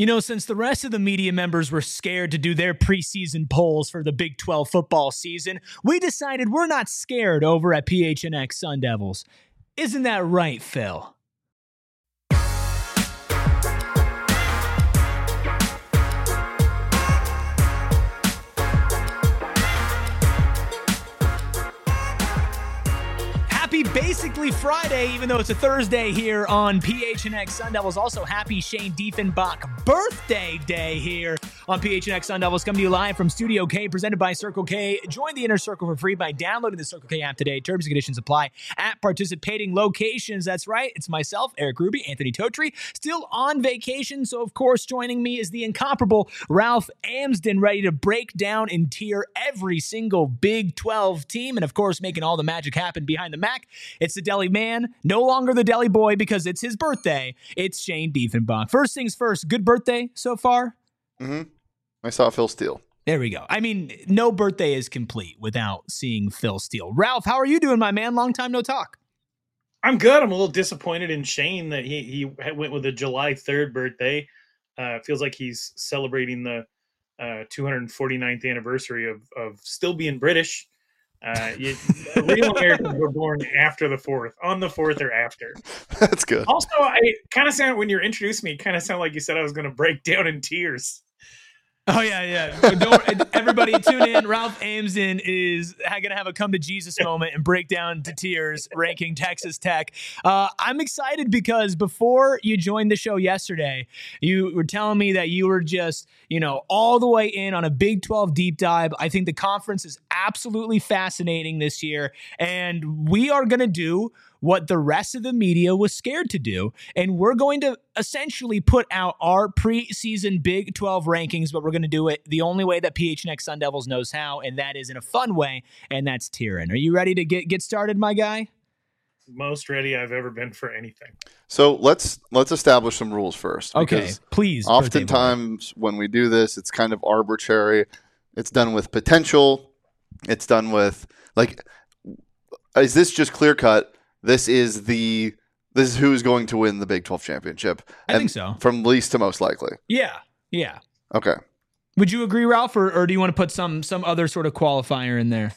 Since the rest of the media members were scared to do their preseason polls for the Big 12 football season, we decided we're not scared over at PHNX Sun Devils. Isn't that right, Phil? Happy basically Friday, even though it's a Thursday here on PHNX Sun Devils. Also, happy Shane Diefenbach birthday day here on PHNX Sun Devils. Come to you live from Studio K, presented by Circle K. Join the Inner Circle for free by downloading the Circle K app today. Terms and conditions apply at participating locations. That's right. It's myself, Eric Ruby, Anthony Totri, still on vacation. So, of course, joining me is the incomparable Ralph Amsden, ready to break down and tier every single Big 12 team. And, of course, making all the magic happen behind the Mac. It's the Deli Man, no longer the Deli Boy because it's his birthday. It's Shane Diefenbach. First things first, good birthday so far? Mm-hmm. I saw Phil Steele. There we go. I mean, no birthday is complete without seeing Phil Steele. Ralph, how are you doing, my man? Long time no talk. I'm good. I'm a little disappointed in Shane that he went with a July 3rd birthday. Feels like he's celebrating the 249th anniversary of still being British. Real Americans were born after the 4th, on the 4th or after. That's good. Also, I kind of sound, when you introduced me, kind of sound like you said I was going to break down in tears. Oh, yeah. Everybody tune in. Ralph Amsden is going to have a come to Jesus moment and break down to tears ranking Texas Tech. I'm excited because before you joined the show yesterday, you were telling me that you were just, all the way in on a Big 12 deep dive. I think the conference is absolutely fascinating this year, and we are going to do what the rest of the media was scared to do. And we're going to essentially put out our preseason Big 12 rankings, but we're going to do it the only way that PHNX Sun Devils knows how, and that is in a fun way, and that's tiering. Are you ready to get started, my guy? Most ready I've ever been for anything. So let's establish some rules first. Okay, please. Oftentimes when we do this, it's kind of arbitrary. It's done with potential. It's done with, is this just clear cut? This is who's going to win the Big 12 championship. I think so. From least to most likely. Yeah. Okay. Would you agree, Ralph, or do you want to put some other sort of qualifier in there?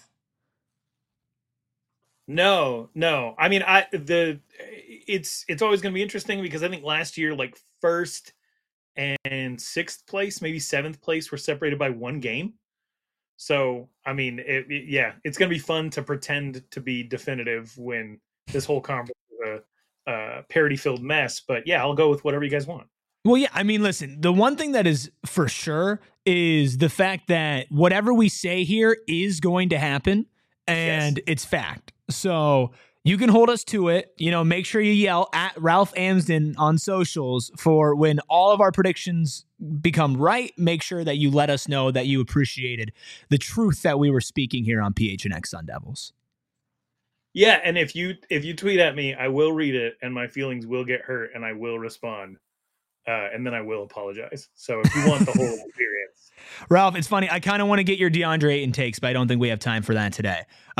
No. I mean, it's always going to be interesting because I think last year, first and sixth place, maybe seventh place, were separated by one game. So, I mean, it's going to be fun to pretend to be definitive when this whole conference is a parody-filled mess. But yeah, I'll go with whatever you guys want. Well, yeah, I mean, listen, the one thing that is for sure is the fact that whatever we say here is going to happen, and It's fact. So you can hold us to it. Make sure you yell at Ralph Amsden on socials for when all of our predictions become right. Make sure that you let us know that you appreciated the truth that we were speaking here on PHNX Sun Devils. Yeah, and if you tweet at me, I will read it, and my feelings will get hurt, and I will respond, and then I will apologize. So if you want the whole experience. Ralph, it's funny. I kind of want to get your DeAndre Ayton takes, but I don't think we have time for that today.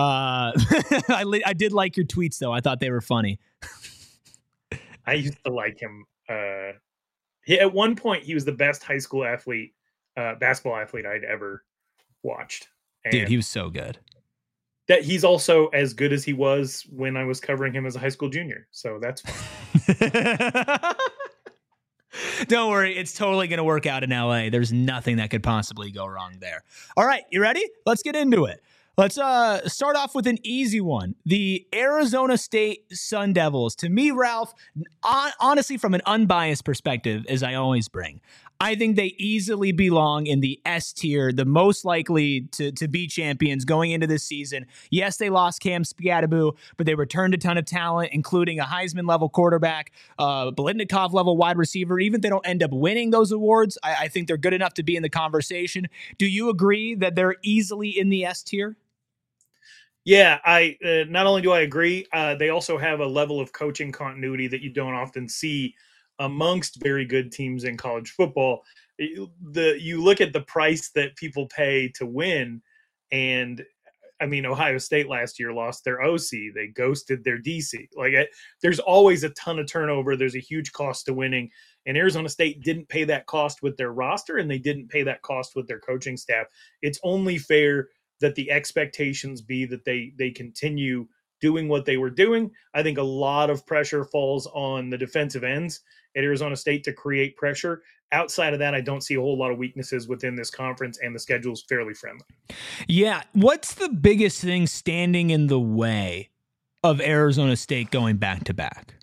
I did like your tweets, though. I thought they were funny. I used to like him. At one point, he was the best high school basketball athlete I'd ever watched. And dude, he was so good. That he's also as good as he was when I was covering him as a high school junior. So that's fine. Don't worry. It's totally going to work out in LA. There's nothing that could possibly go wrong there. All right. You ready? Let's get into it. Let's start off with an easy one. The Arizona State Sun Devils. To me, Ralph, honestly, from an unbiased perspective, as I always bring, I think they easily belong in the S tier, the most likely to be champions going into this season. Yes, they lost Cam Spigataboo, but they returned a ton of talent, including a Heisman-level quarterback, Biletnikoff-level wide receiver. Even if they don't end up winning those awards, I think they're good enough to be in the conversation. Do you agree that they're easily in the S tier? Yeah, I not only do I agree, they also have a level of coaching continuity that you don't often see amongst very good teams in college football. You look at the price that people pay to win, and I mean, Ohio State last year lost their OC. They ghosted their DC. There's always a ton of turnover. There's a huge cost to winning. And Arizona State didn't pay that cost with their roster, and they didn't pay that cost with their coaching staff. It's only fair that the expectations be that they continue doing what they were doing. I think a lot of pressure falls on the defensive ends at Arizona State to create pressure. Outside of that, I don't see a whole lot of weaknesses within this conference, and the schedule is fairly friendly. Yeah. What's the biggest thing standing in the way of Arizona State going back to back?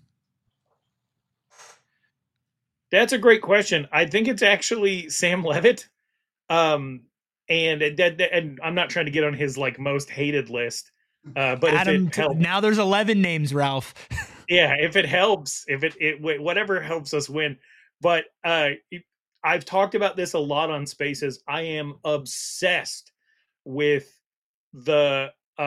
That's a great question. I think it's actually Sam Leavitt. And I'm not trying to get on his like most hated list. But Adam, if it helps, now there's 11 names, Ralph. yeah, if it helps, if it whatever helps us win. But I've talked about this a lot on Spaces. I am obsessed with the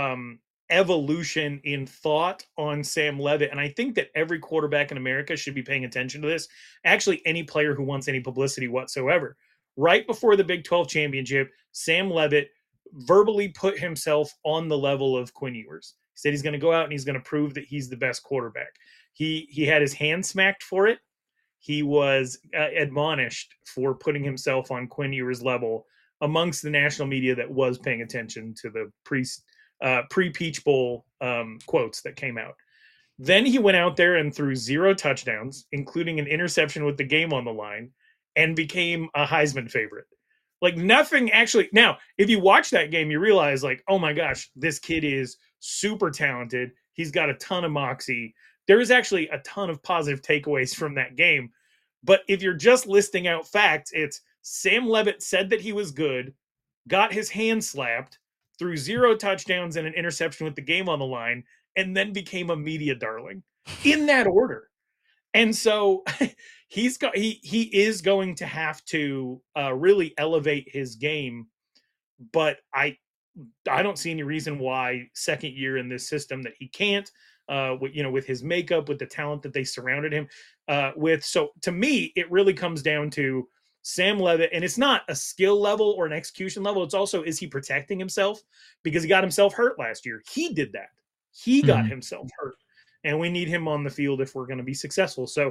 evolution in thought on Sam Leavitt. And I think that every quarterback in America should be paying attention to this. Actually, any player who wants any publicity whatsoever. Right before the Big 12 championship, Sam Leavitt verbally put himself on the level of Quinn Ewers. He said he's going to go out and he's going to prove that he's the best quarterback. He had his hand smacked for it. He was admonished for putting himself on Quinn Ewers' level amongst the national media that was paying attention to the pre-Peach Bowl quotes that came out. Then he went out there and threw 0 touchdowns, including an interception with the game on the line, and became a Heisman favorite. Like nothing actually. Now, if you watch that game, you realize like, oh my gosh, this kid is super talented. He's got a ton of moxie. There is actually a ton of positive takeaways from that game. But if you're just listing out facts, it's Sam Leavitt said that he was good, got his hand slapped, threw 0 touchdowns and an interception with the game on the line, and then became a media darling in that order. And so he is going to have to really elevate his game, but I don't see any reason why second year in this system that he can't. With his makeup, with the talent that they surrounded him with. So to me, it really comes down to Sam Leavitt, and it's not a skill level or an execution level. It's also, is he protecting himself? Because he got himself hurt last year. He did that. He got himself hurt, and we need him on the field if we're going to be successful. So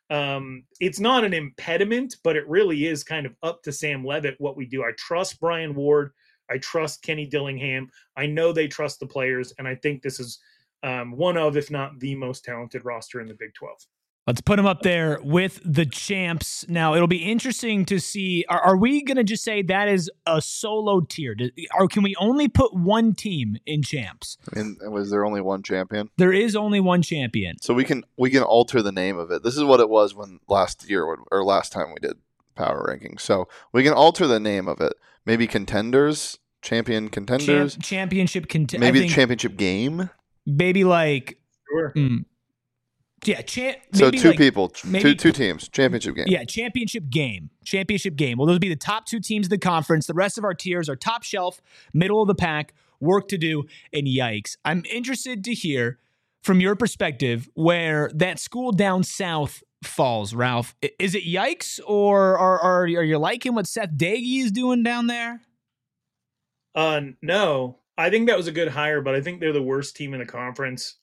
it's not an impediment, but it really is kind of up to Sam Leavitt what we do. I trust Brian Ward. I trust Kenny Dillingham. I know they trust the players, and I think this is one of, if not the most talented roster in the Big 12. Let's put them up there with the champs. Now, it'll be interesting to see, are we going to just say that is a solo tier? Or can we only put one team in champs? And was there only one champion? There is only one champion. So we can alter the name of it. This is what it was when last time we did power rankings. So we can alter the name of it. Maybe contenders, champion contenders. Championship contenders. Maybe the championship game. Maybe like... Sure. Yeah, so two like, people, two teams, championship game. Yeah, championship game. Well, those would be the top 2 teams of the conference. The rest of our tiers are top shelf, middle of the pack, work to do, and yikes. I'm interested to hear from your perspective where that school down south falls, Ralph. Is it yikes, or are you liking what Seth Daggy is doing down there? No. I think that was a good hire, but I think they're the worst team in the conference.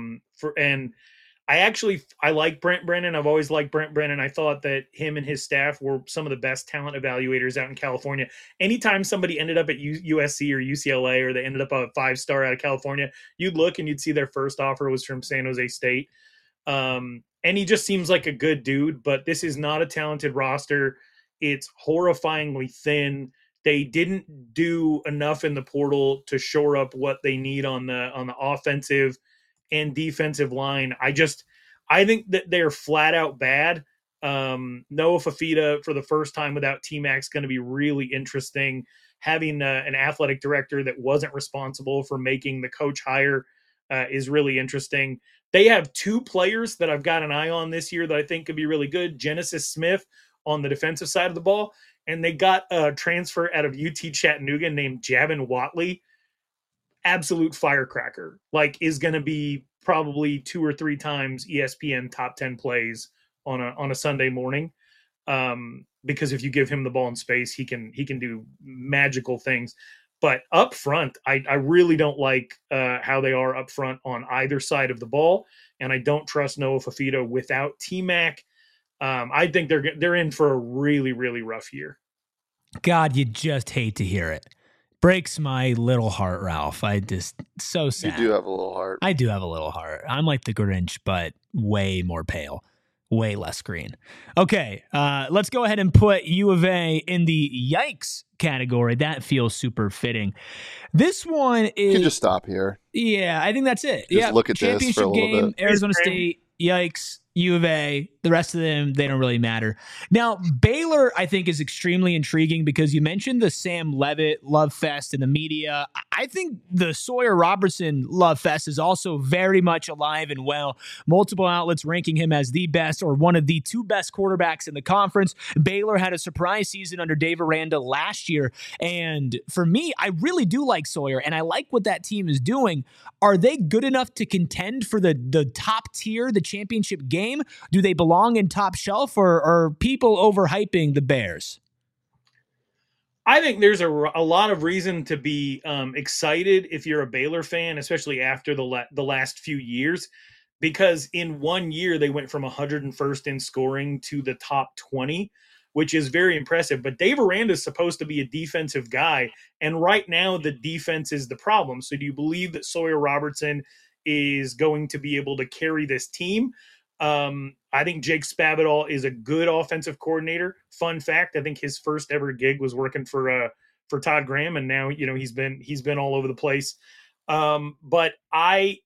I like Brent Brennan. I've always liked Brent Brennan. I thought that him and his staff were some of the best talent evaluators out in California. Anytime somebody ended up at USC or UCLA, or they ended up a 5-star out of California, you'd look and you'd see their first offer was from San Jose State. And he just seems like a good dude, but this is not a talented roster. It's horrifyingly thin. They didn't do enough in the portal to shore up what they need on the offensive and defensive line. I think that they're flat out bad. Noah Fafita for the first time without T-Mac going to be really interesting. Having an athletic director that wasn't responsible for making the coach hire is really interesting. They have 2 players that I've got an eye on this year that I think could be really good. Genesis Smith on the defensive side of the ball, and they got a transfer out of UT Chattanooga named Javin Watley. Absolute firecracker, like is going to be probably 2 or 3 times ESPN top 10 plays on a Sunday morning. Because if you give him the ball in space, he can do magical things. But up front, I really don't like how they are up front on either side of the ball. And I don't trust Noah Fafita without T-Mac. I think they're in for a really, really rough year. God, you just hate to hear it. Breaks my little heart, Ralph. I just so sad. You do have a little heart. I do have a little heart. I'm like the Grinch, but way more pale, way less green. Okay, let's go ahead and put U of A in the yikes category. That feels super fitting. This one is. You can just stop here. Yeah, I think that's it. Just look at this for a little game, bit. Arizona State, yikes. U of A, the rest of them, they don't really matter. Now, Baylor, I think, is extremely intriguing because you mentioned the Sam Levitt love fest in the media. I think the Sawyer Robertson love fest is also very much alive and well. Multiple outlets ranking him as the best or one of the two best quarterbacks in the conference. Baylor had a surprise season under Dave Aranda last year. And for me, I really do like Sawyer, and I like what that team is doing. Are they good enough to contend for the top tier, the championship game? Do they belong in top shelf, or are people overhyping the Bears? I think there's a lot of reason to be excited if you're a Baylor fan, especially after the last few years, because in 1 year they went from 101st in scoring to the top 20, which is very impressive. But Dave Aranda is supposed to be a defensive guy, and right now the defense is the problem. So do you believe that Sawyer Robertson is going to be able to carry this team? I think Jake Spavital is a good offensive coordinator. Fun fact, I think his first ever gig was working for Todd Graham, and now he's been all over the place. But I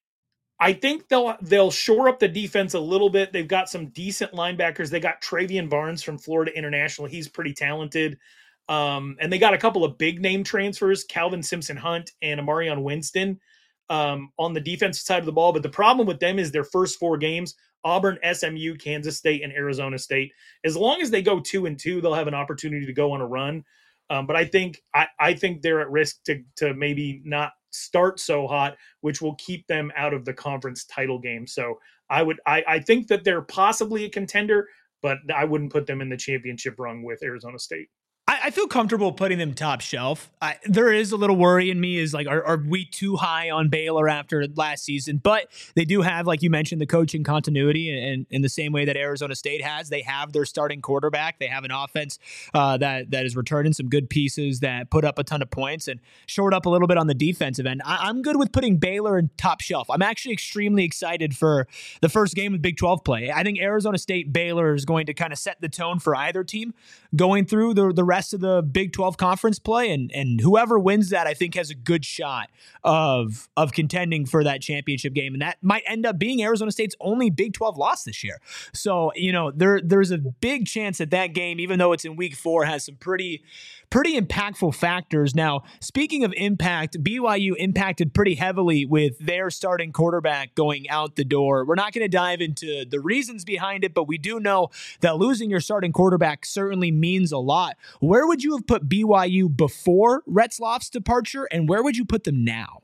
think they'll shore up the defense a little bit. They've got some decent linebackers. They got Travian Barnes from Florida International. He's pretty talented. And they got a couple of big name transfers, Calvin Simpson-Hunt and Amarion Winston, on the defensive side of the ball. But the problem with them is their first 4 games: Auburn, SMU, Kansas State, and Arizona State. As long as they go 2-2, they'll have an opportunity to go on a run. But I think they're at risk to maybe not start so hot, which will keep them out of the conference title game. So I think that they're possibly a contender, but I wouldn't put them in the championship rung with Arizona State. I feel comfortable putting them top shelf. There is a little worry in me is like, are we too high on Baylor after last season? But they do have, like you mentioned, the coaching continuity, and in the same way that Arizona State has, they have their starting quarterback. They have an offense that is returning some good pieces that put up a ton of points and shored up a little bit on the defensive end. I'm good with putting Baylor in top shelf. I'm actually extremely excited for the first game of Big 12 play. I think Arizona State Baylor is going to kind of set the tone for either team going through the rest of the Big 12 conference play, and whoever wins that, I think, has a good shot of contending for that championship game, and that might end up being Arizona State's only Big 12 loss this year. So there's a big chance that game, even though it's in week 4, has some pretty impactful factors. Now, speaking of impact, BYU impacted pretty heavily with their starting quarterback going out the door. We're not going to dive into the reasons behind it, but we do know that losing your starting quarterback certainly means a lot. Where would you have put BYU before Retzloff's departure, and where would you put them now?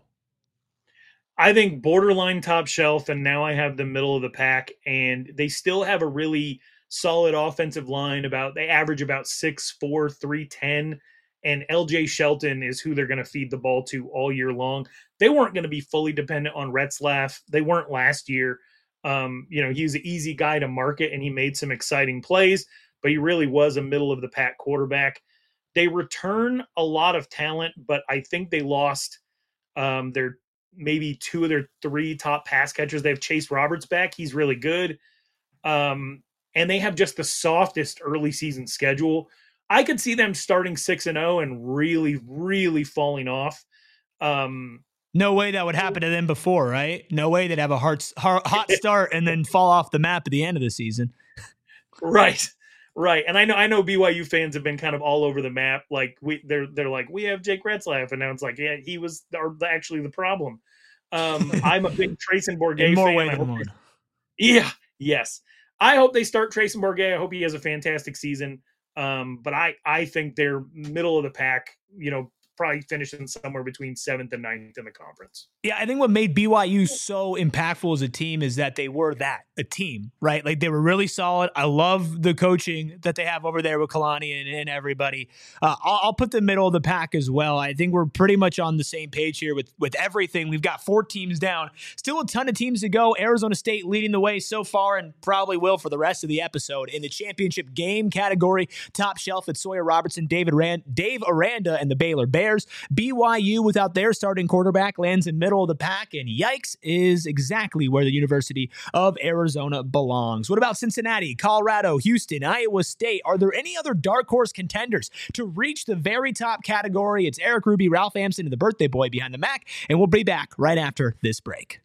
I think borderline top shelf, and now I have the middle of the pack, and they still have a really solid offensive line. They average about 6'4", 310, and LJ Shelton is who they're going to feed the ball to all year long. They weren't going to be fully dependent on Retzlaff. They weren't last year. He was an easy guy to market, and he made some exciting plays, but he really was a middle of the pack quarterback. They return a lot of talent, but I think they lost their maybe 2 of their 3 top pass catchers. They have Chase Roberts back. He's really good. And they have just the softest early season schedule. I could see them starting 6-0 and really, really falling off. No way that would happen to them before, right? No way they'd have a hot start and then fall off the map at the end of the season. Right. And I know BYU fans have been kind of all over the map. Like they're like, we have Jake Retzlaff, and now it's like, yeah, he was actually the problem. I'm a big Trayson Bourguet in more fan. ways than one. Yeah. Yes. I hope they start Trayson Bourguet. I hope he has a fantastic season. But I think they're middle of the pack, probably finishing somewhere between 7th and 9th in the conference. Yeah, I think what made BYU so impactful as a team is that they were a team, right? Like they were really solid. I love the coaching that they have over there with Kalani and everybody. I'll put the middle of the pack as well. I think we're pretty much on the same page here with everything. We've got 4 teams down. Still a ton of teams to go. Arizona State leading the way so far and probably will for the rest of the episode. In the championship game category, top shelf at Sawyer Robertson, Dave Aranda, and the Baylor Bears. BYU, without their starting quarterback, lands in middle of the pack, and yikes is exactly where the University of Arizona belongs. What about Cincinnati, Colorado, Houston, Iowa State? Are there any other dark horse contenders to reach the very top category? It's Eric Ruby, Ralph Amson, and the birthday boy behind the Mac, and we'll be back right after this break.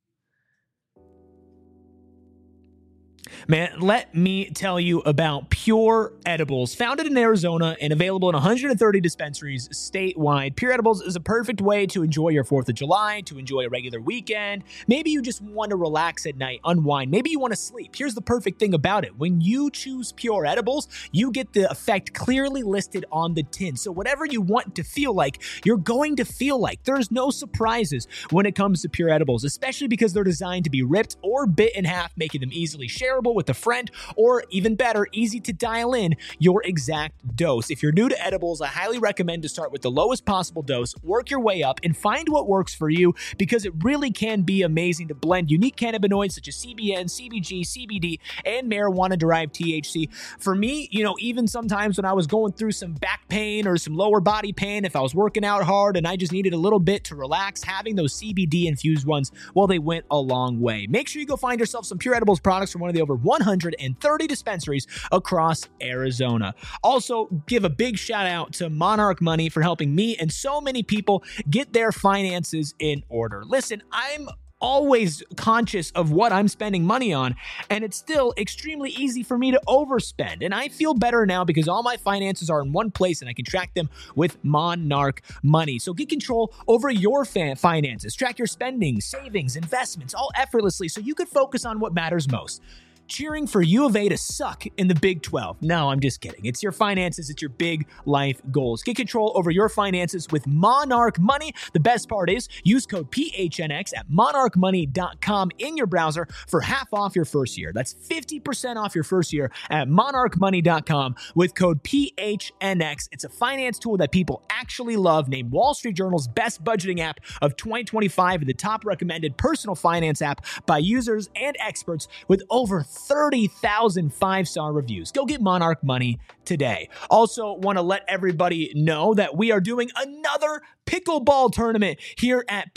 Man, let me tell you about Pure Edibles. Founded in Arizona and available in 130 dispensaries statewide, Pure Edibles is a perfect way to enjoy your 4th of July, to enjoy a regular weekend. Maybe you just want to relax at night, unwind. Maybe you want to sleep. Here's the perfect thing about it. When you choose Pure Edibles, you get the effect clearly listed on the tin. So whatever you want to feel like, you're going to feel like. There's no surprises when it comes to Pure Edibles, especially because they're designed to be ripped or bit in half, making them easily shareable with a friend, or even better, easy to dial in your exact dose. If you're new to edibles, I highly recommend to start with the lowest possible dose, work your way up, and find what works for you, because it really can be amazing to blend unique cannabinoids such as CBN, CBG, CBD, and marijuana-derived THC. For me, even sometimes when I was going through some back pain or some lower body pain, if I was working out hard and I just needed a little bit to relax, having those CBD-infused ones, well, they went a long way. Make sure you go find yourself some Pure Edibles products from one of the over 130 dispensaries across Arizona. Also, give a big shout out to Monarch Money for helping me and so many people get their finances in order. Listen, I'm always conscious of what I'm spending money on, and it's still extremely easy for me to overspend. And I feel better now because all my finances are in one place and I can track them with Monarch Money. So get control over your finances. Track your spending, savings, investments, all effortlessly so you can focus on what matters most. Cheering for U of A to suck in the Big 12. No, I'm just kidding. It's your finances. It's your big life goals. Get control over your finances with Monarch Money. The best part is use code PHNX at monarchmoney.com in your browser for half off your first year. That's 50% off your first year at monarchmoney.com with code PHNX. It's a finance tool that people actually love, named Wall Street Journal's best budgeting app of 2025 and the top recommended personal finance app by users and experts with over 30,000 5-star reviews. Go get Monarch Money today. Also, want to let everybody know that we are doing another pickleball tournament here at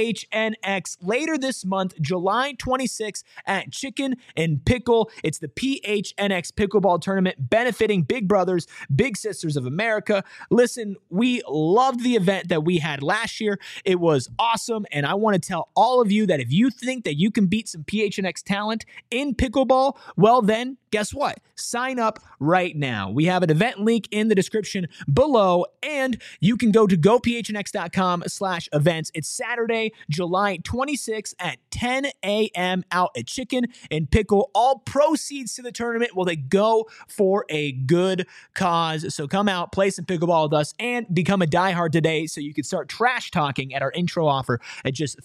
PHNX later this month, July 26th at Chicken and Pickle. It's the PHNX Pickleball Tournament benefiting Big Brothers, Big Sisters of America. Listen, we loved the event that we had last year. It was awesome, and I want to tell all of you that if you think that you can beat some PHNX talent in pickleball, well then, guess what? Sign up right now. We have an event link in the description below, and you can go to gophnx.com/events. It's Saturday, July 26th at 10 a.m. out at Chicken and Pickle. All proceeds to the tournament, well, they go for a good cause. So come out, play some pickleball with us, and become a diehard today so you can start trash talking at our intro offer at just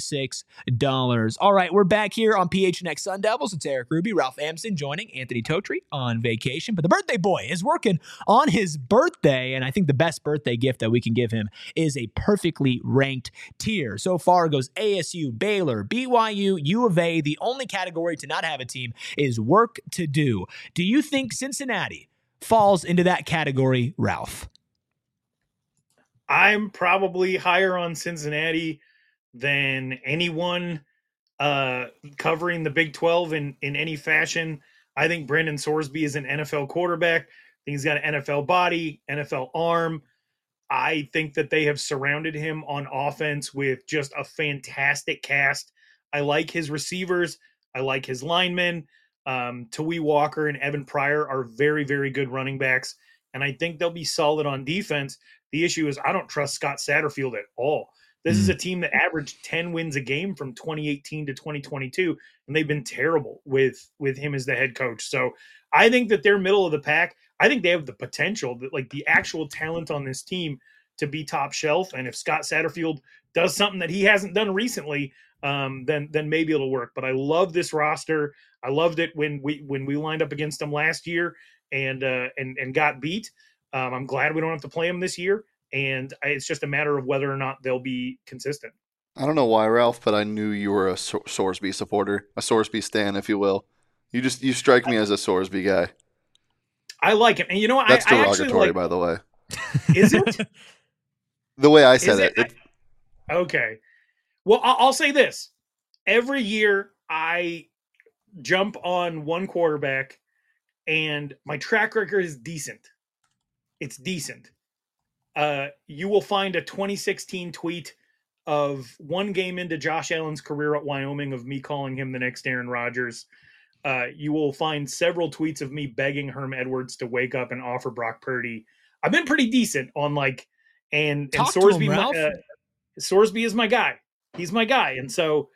$36. All right, we're back here on PHNX Sun Devils. It's Eric Ruby, Ralph Amson joining Anthony Totri on vacation, but the birthday boy is working on his birthday, and I think the best birthday gift that we can give him is a perfectly ranked tier. So far goes ASU, Baylor, BYU, U of A. The only category to not have a team is work to do. Do you think Cincinnati falls into that category, Ralph? I'm probably higher on Cincinnati than anyone covering the Big 12 in any fashion. I think Brandon Sorsby is an NFL quarterback. I think he's got an NFL body, NFL arm. I think that they have surrounded him on offense with just a fantastic cast. I like his receivers. I like his linemen. Tawee Walker and Evan Pryor are very, very good running backs, and I think they'll be solid on defense. The issue is I don't trust Scott Satterfield at all. This is a team that averaged 10 wins a game from 2018 to 2022, and they've been terrible with him as the head coach. So I think that they're middle of the pack. I think they have the potential, that like the actual talent on this team to be top shelf. And if Scott Satterfield does something that he hasn't done recently, then maybe it'll work. But I love this roster. I loved it when we lined up against them last year and got beat. I'm glad we don't have to play them this year. And it's just a matter of whether or not they'll be consistent. I don't know why, Ralph, but I knew you were a Sorsby supporter, a Sorsby stan, if you will. You strike me as a Sorsby guy. I like him. And you know what? That's I derogatory, by the way. Is it? The way I said it. Okay. Well, I'll say this. Every year I jump on one quarterback and my track record is decent. It's decent. You will find a 2016 tweet of one game into Josh Allen's career at Wyoming of me calling him the next Aaron Rodgers. You will find several tweets of me begging Herm Edwards to wake up and offer Brock Purdy. I've been pretty decent on and Sorsby. Sorsby is my guy. He's my guy, and so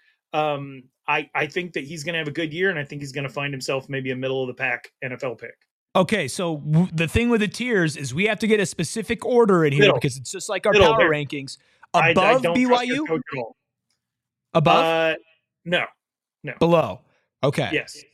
I think that he's going to have a good year, and I think he's going to find himself maybe a middle of the pack NFL pick. Okay, so the thing with the tiers is we have to get a specific order in here because it's just like our power rankings. Above I don't BYU? trust at all. Above? No. Below. Okay. Yes.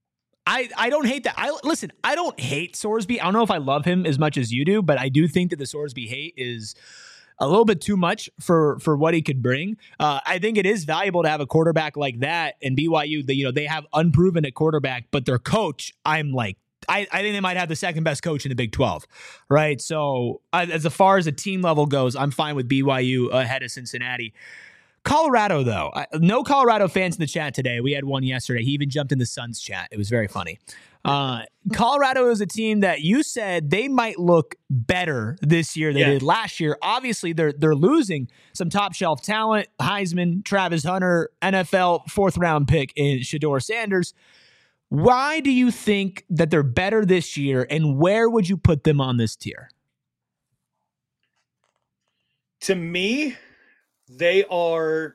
I don't hate that. I don't hate Sorsby. I don't know if I love him as much as you do, but I do think that the Sorsby hate is a little bit too much for what he could bring. I think it is valuable to have a quarterback like that. And BYU, they have unproven at quarterback, but their coach, I think they might have the second best coach in the Big 12, right? So as far as a team level goes, I'm fine with BYU ahead of Cincinnati. Colorado, though, no Colorado fans in the chat today. We had one yesterday. He even jumped in the Suns chat. It was very funny. Colorado is a team that you said they might look better this year than they did last year. Obviously, they're losing some top shelf talent. Heisman, Travis Hunter, NFL fourth round pick in Shedeur Sanders. Why do you think that they're better this year, and where would you put them on this tier? To me, they are.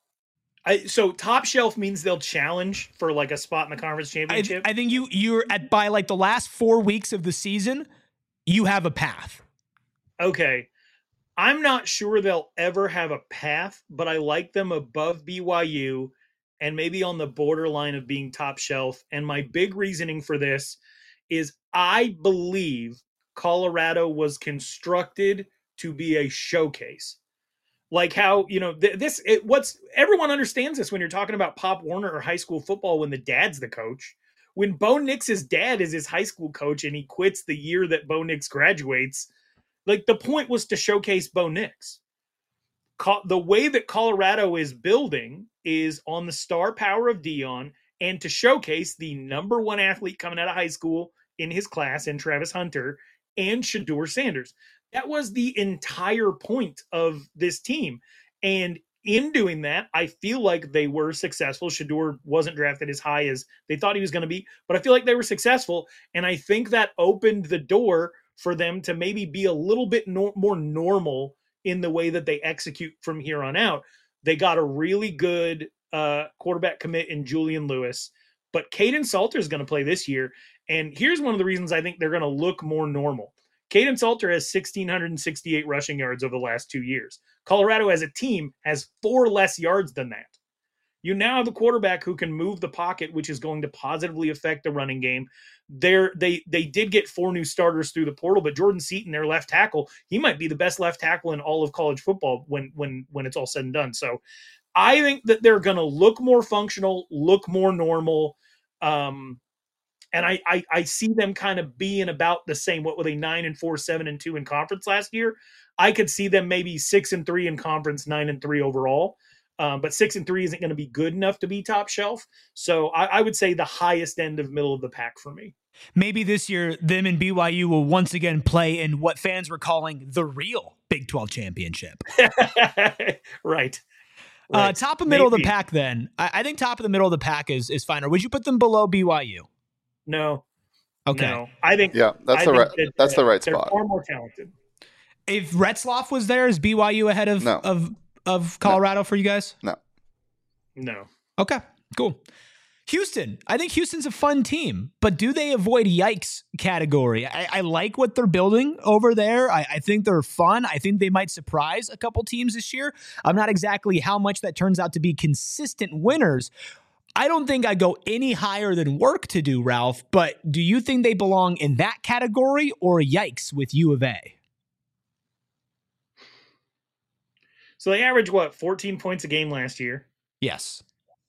So top shelf means they'll challenge for like a spot in the conference championship. I think you're by like the last 4 weeks of the season, you have a path. Okay. I'm not sure they'll ever have a path, but I like them above BYU and maybe on the borderline of being top shelf. And my big reasoning for this is I believe Colorado was constructed to be a showcase. Like how, everyone understands this when you're talking about Pop Warner or high school football when the dad's the coach. When Bo Nix's dad is his high school coach and he quits the year that Bo Nix graduates, like the point was to showcase Bo Nix. The way that Colorado is building is on the star power of Dion and to showcase the number one athlete coming out of high school in his class in Travis Hunter and Shedeur Sanders. That was the entire point of this team. And in doing that, I feel like they were successful. Shedeur wasn't drafted as high as they thought he was going to be, but I feel like they were successful. And I think that opened the door for them to maybe be a little bit more normal in the way that they execute from here on out. They got a really good quarterback commit in Julian Lewis, but Caden Salter is going to play this year. And here's one of the reasons I think they're going to look more normal. Caden Salter has 1,668 rushing yards over the last 2 years. Colorado as a team has 4 less yards than that. You now have a quarterback who can move the pocket, which is going to positively affect the running game. They did get 4 new starters through the portal, but Jordan Seaton, their left tackle, he might be the best left tackle in all of college football when it's all said and done. So I think that they're going to look more functional, look more normal. And I see them kind of being about the same. What were they, 9-4, 7-2 in conference last year? I could see them maybe 6-3 in conference, 9-3 overall. But 6-3 isn't going to be good enough to be top shelf. So I would say the highest end of middle of the pack for me. Maybe this year, them and BYU will once again play in what fans were calling the real Big 12 championship. Right. Top of middle of the pack then. I think top of the middle of the pack is fine. Or would you put them below BYU? No. Okay. No. I think that's the right spot. They're far more talented. If Retzloff was there, is BYU ahead of Colorado for you guys? No. No. Okay, cool. Houston. I think Houston's a fun team, but do they avoid yikes category? I like what they're building over there. I think they're fun. I think they might surprise a couple teams this year. I'm not exactly how much that turns out to be consistent winners. I don't think I'd go any higher than work to do, Ralph, but do you think they belong in that category or yikes with U of A? So they averaged, 14 points a game last year? Yes.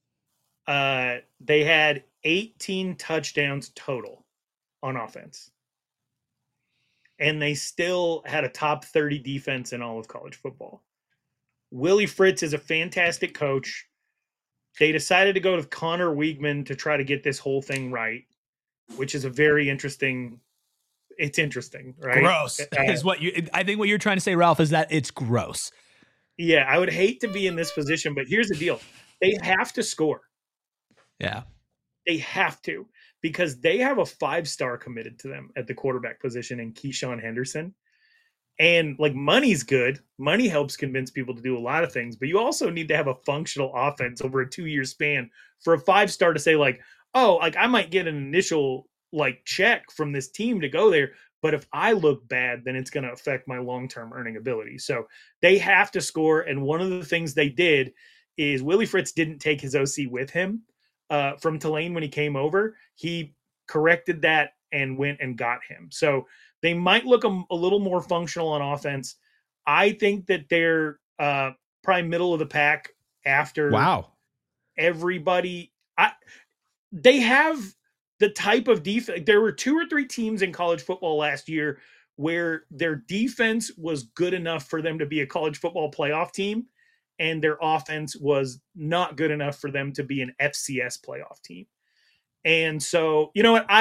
They had 18 touchdowns total on offense. And they still had a top 30 defense in all of college football. Willie Fritz is a fantastic coach. They decided to go with Connor Weigman to try to get this whole thing right, which is a very interesting. It's interesting, right? Gross is what I think what you're trying to say, Ralph, is that it's gross. Yeah, I would hate to be in this position, but here's the deal. They have to score. Yeah. They have to, because they have a 5-star committed to them at the quarterback position in Keyshawn Henderson. And like, money's good. Money helps convince people to do a lot of things, but you also need to have a functional offense over a 2-year span for a 5-star to say like, oh, like I might get an initial like check from this team to go there, but if I look bad, then it's going to affect my long-term earning ability. So they have to score. And one of the things they did is Willie Fritz didn't take his OC with him from Tulane when he came over. He corrected that and went and got him. So they might look a little more functional on offense. I think that they're probably middle of the pack after everybody. They have the type of defense. There were 2 or 3 teams in college football last year where their defense was good enough for them to be a college football playoff team, and their offense was not good enough for them to be an FCS playoff team. And so, you know what?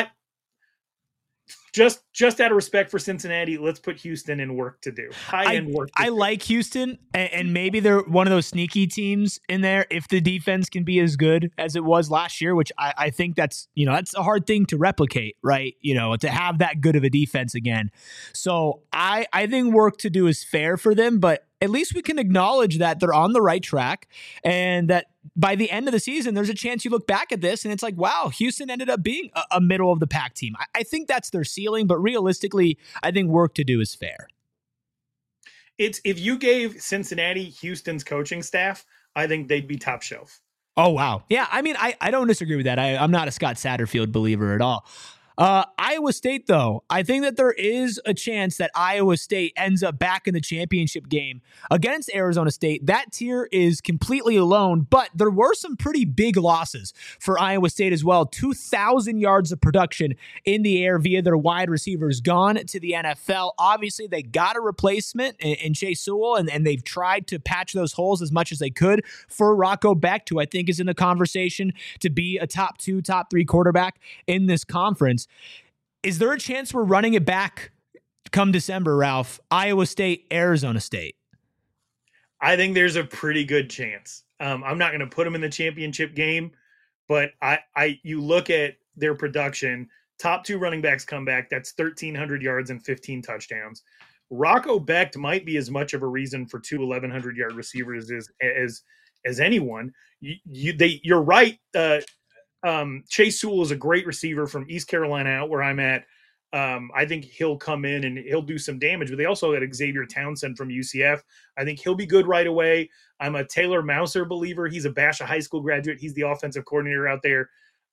Just out of respect for Cincinnati, let's put Houston in work to do. High-end work. I like Houston, and maybe they're one of those sneaky teams in there if the defense can be as good as it was last year, which I think that's a hard thing to replicate, right? To have that good of a defense again. So I think work to do is fair for them, but at least we can acknowledge that they're on the right track and that by the end of the season, there's a chance you look back at this and it's like, wow, Houston ended up being a middle of the pack team. I think that's their ceiling, but realistically, I think work to do is fair. If you gave Cincinnati Houston's coaching staff, I think they'd be top shelf. Oh, wow. Yeah, I mean, I don't disagree with that. I'm not a Scott Satterfield believer at all. Iowa State, though, I think that there is a chance that Iowa State ends up back in the championship game against Arizona State. That tier is completely alone, but there were some pretty big losses for Iowa State as well. 2,000 yards of production in the air via their wide receivers gone to the NFL. Obviously, they got a replacement in Chase Sewell, and they've tried to patch those holes as much as they could for Rocco Becht, who I think is in the conversation to be a top 2, top 3 quarterback in this conference. Is there a chance we're running it back come December, Ralph? Iowa State, Arizona State. I think there's a pretty good chance. I'm not going to put them in the championship game, but you look at their production, top 2 running backs come back. That's 1,300 yards and 15 touchdowns. Rocco Becht might be as much of a reason for 2 1,100-yard receivers as anyone. You're right. Chase Sewell is a great receiver from East Carolina, out where I'm at. I think he'll come in and he'll do some damage, but they also got Xavier Townsend from UCF. I think he'll be good right away. I'm a Taylor Mouser believer. He's a Basha High School graduate. He's the offensive coordinator out there.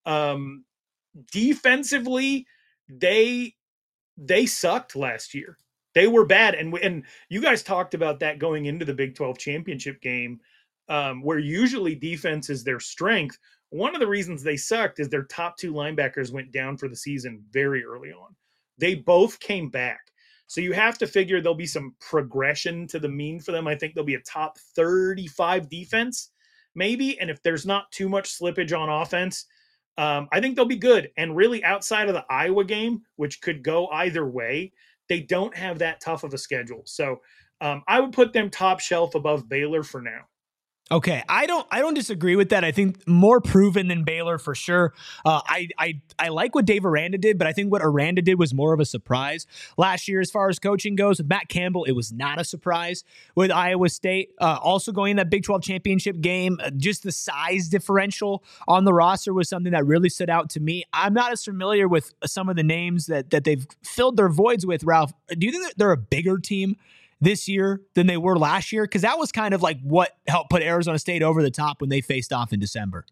Defensively, they sucked last year. They were bad. And you guys talked about that going into the Big 12 championship game, where usually defense is their strength. One of the reasons they sucked is their top 2 linebackers went down for the season very early on. They both came back. So you have to figure there'll be some progression to the mean for them. I think they'll be a top 35 defense, maybe. And if there's not too much slippage on offense, I think they'll be good. And really, outside of the Iowa game, which could go either way, they don't have that tough of a schedule. So I would put them top shelf above Baylor for now. Okay, I don't disagree with that. I think more proven than Baylor for sure. I like what Dave Aranda did, but I think what Aranda did was more of a surprise last year as far as coaching goes. With Matt Campbell, it was not a surprise with Iowa State. Also going in that Big 12 championship game, just the size differential on the roster was something that really stood out to me. I'm not as familiar with some of the names that they've filled their voids with, Ralph. Do you think that they're a bigger team this year than they were last year? Because that was kind of like what helped put Arizona State over the top when they faced off in December.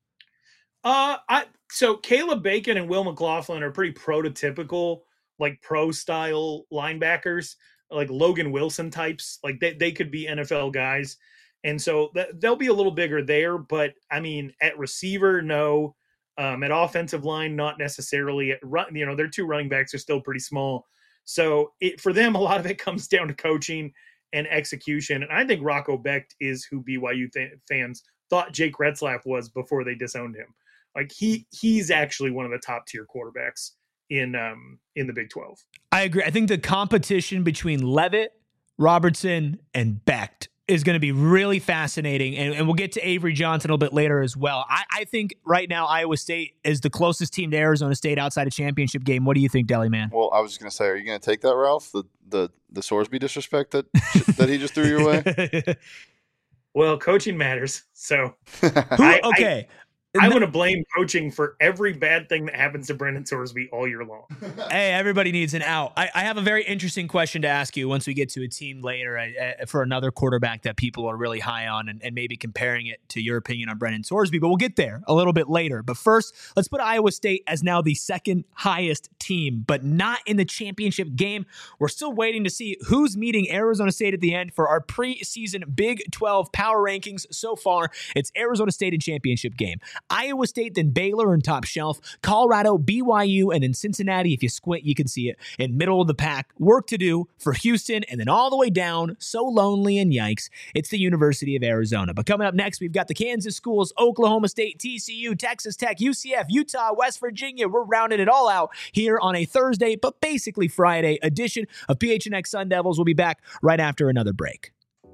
So Caleb Bacon and Will McLaughlin are pretty prototypical, like pro style linebackers, like Logan Wilson types. Like they could be NFL guys. And so they'll be a little bigger there. But I mean, at receiver, no. At offensive line, not necessarily. At run, their two running backs are still pretty small. So for them, a lot of it comes down to coaching and execution. And I think Rocco Becht is who BYU fans thought Jake Retzlaff was before they disowned him. Like he's actually one of the top tier quarterbacks in the Big 12. I agree. I think the competition between Leavitt, Robertson, and Becht is going to be really fascinating. And we'll get to Avery Johnson a little bit later as well. I think right now Iowa State is the closest team to Arizona State outside a championship game. What do you think, Deli Man? Well, I was just going to say, are you going to take that, Ralph? The Sorsby disrespect that he just threw your way? Well, coaching matters. So okay. I want to blame coaching for every bad thing that happens to Brendan Sorsby all year long. Hey, everybody needs an out. I have a very interesting question to ask you once we get to a team later for another quarterback that people are really high on and maybe comparing it to your opinion on Brendan Sorsby, but we'll get there a little bit later. But first, let's put Iowa State as now the second highest team, but not in the championship game. We're still waiting to see who's meeting Arizona State at the end for our preseason Big 12 power rankings. So far, it's Arizona State in championship game. Iowa State, then Baylor in top shelf, Colorado, BYU, and then Cincinnati. If you squint, you can see it in middle of the pack. Work to do for Houston, and then all the way down, so lonely and yikes, it's the University of Arizona. But coming up next, we've got the Kansas schools, Oklahoma State, TCU, Texas Tech, UCF, Utah, West Virginia. We're rounding it all out here on a Thursday, but basically Friday edition of PHNX Sun Devils. We'll be back right after another break.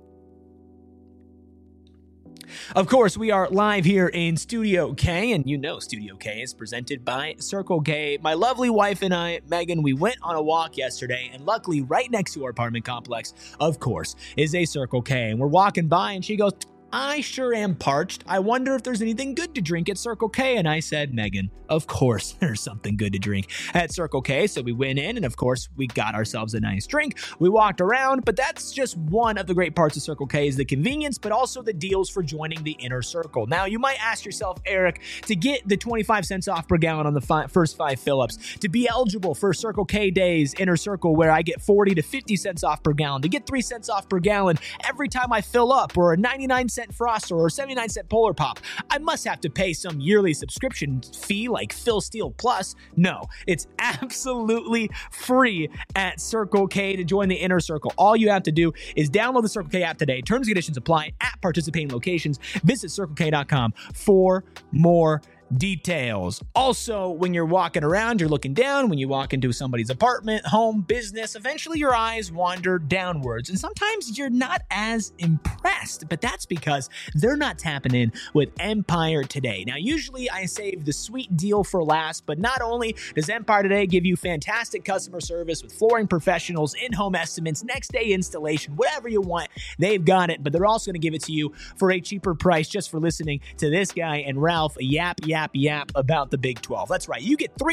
Of course, we are live here in Studio K, and you know Studio K is presented by Circle K. My lovely wife and I, Megan, we went on a walk yesterday, and luckily right next to our apartment complex, of course, is a Circle K. And we're walking by, and she goes, I sure am parched. I wonder if there's anything good to drink at Circle K. And I said, Megan, of course there's something good to drink at Circle K. So we went in and of course we got ourselves a nice drink. We walked around, but that's just one of the great parts of Circle K is the convenience, but also the deals for joining the inner circle. Now you might ask yourself, Eric, to get the 25 cents off per gallon on the first 5 fill-ups, to be eligible for Circle K Days inner circle where I get 40 to 50 cents off per gallon, to get 3 cents off per gallon every time I fill up, or a 99-cent Froster or 79-cent Polar Pop, I must have to pay some yearly subscription fee like Phil Steele Plus. No, it's absolutely free at Circle K to join the inner circle. All you have to do is download the Circle K app today. Terms and conditions apply at participating locations. Visit CircleK.com for more details. Also, when you're walking around, you're looking down. When you walk into somebody's apartment, home, business, eventually your eyes wander downwards. And sometimes you're not as impressed, but that's because they're not tapping in with Empire Today. Now, usually I save the sweet deal for last, but not only does Empire Today give you fantastic customer service with flooring professionals, in-home estimates, next day installation, whatever you want, they've got it, but they're also going to give it to you for a cheaper price just for listening to this guy and Ralph yap about the Big 12. That's right. You get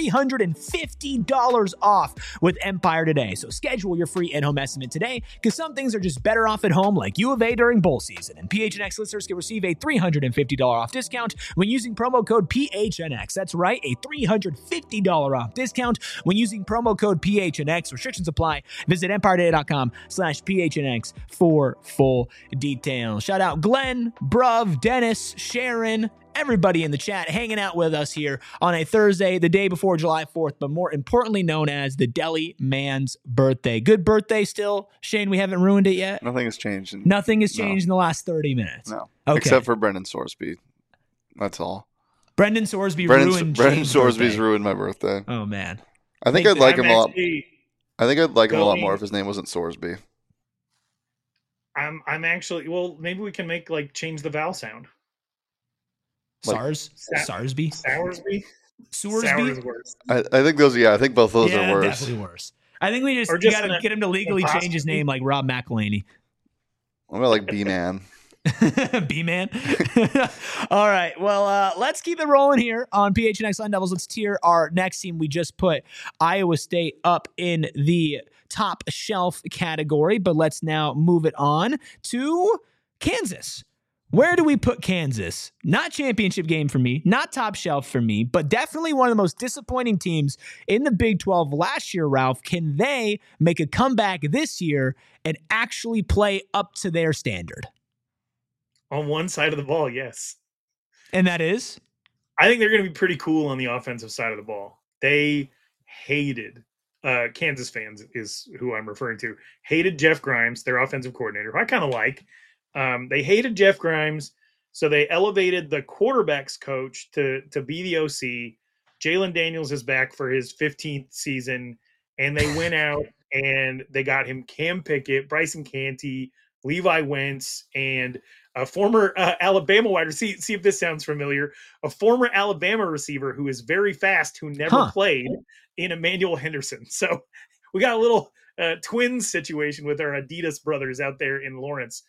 $350 off with Empire Today. So schedule your free in-home estimate today because some things are just better off at home, like U of A during bowl season. And PHNX listeners can receive a $350 off discount when using promo code PHNX. That's right, a $350 off discount when using promo code PHNX. Restrictions apply. Visit EmpireToday.com/PHNX for full details. Shout out Glenn, Bruv, Dennis, Sharon, everybody in the chat hanging out with us here on a Thursday, the day before July 4th, but more importantly known as the Deli Man's birthday. Good birthday still, Shane. We haven't ruined it yet. Nothing has changed. Nothing has changed in the last 30 minutes. No, okay. Except for Brendan Sorsby. That's all. Brendan Sorsby ruined. Brendan Sorsby's ruined my birthday. Oh man, I think I'd like him a lot. I think I'd like him a lot more if his name wasn't Sorsby. I'm actually, well, maybe we can make change the vowel sound. Like- Sarsby? Soursby? Sour Sowersby? is worse. I think those. Yeah, I think both those Yeah, are worse. definitely worse. I think we Or just just got to an get him to legally change his apostrophe. name like Rob McElhaney. What about like B-Man? B-Man. All right. Well, let's keep it rolling here on PHNX Sun Devils. Let's tier our next team. We just put Iowa State up in the top shelf category, but let's now move it on to Kansas. Where do we put Kansas? Not championship game for me, not top shelf for me, but definitely one of the most disappointing teams in the Big 12 last year, Ralph. Can they make a comeback this year and actually play up to their standard? On one side of the ball, yes. And that is? I think they're going to be pretty cool on the offensive side of the ball. They hated, Kansas fans is who I'm referring to, hated Jeff Grimes, their offensive coordinator, who I kind of like. They hated Jeff Grimes, so they elevated the quarterback's coach to be the OC. Jalen Daniels is back for his 15th season, and they went out and they got him Cam Pickett, Bryson Canty, Levi Wentz, and a former Alabama wide receiver. See if this sounds familiar. A former Alabama receiver who is very fast, who never played, in Emmanuel Henderson. So we got a little twins situation with our Adidas brothers out there in Lawrence.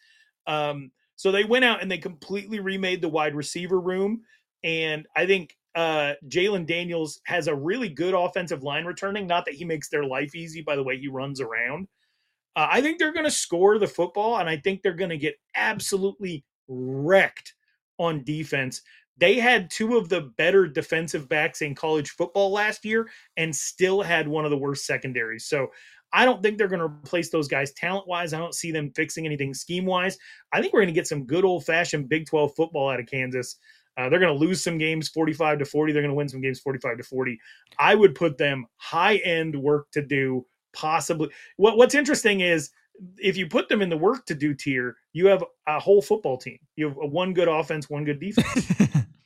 So they went out and they completely remade the wide receiver room. And I think Jalen Daniels has a really good offensive line returning. Not that he makes their life easy by the way he runs around. I think they're going to score the football, and I think they're going to get absolutely wrecked on defense. They had two of the better defensive backs in college football last year and still had one of the worst secondaries. So I don't think they're going to replace those guys talent-wise. I don't see them fixing anything scheme-wise. I think we're going to get some good old-fashioned Big 12 football out of Kansas. They're going to lose some games 45-40. They're going to win some games 45-40. I would put them high-end work to do. Possibly. What's interesting is if you put them in the work to do tier, you have a whole football team. You have one good offense, one good defense.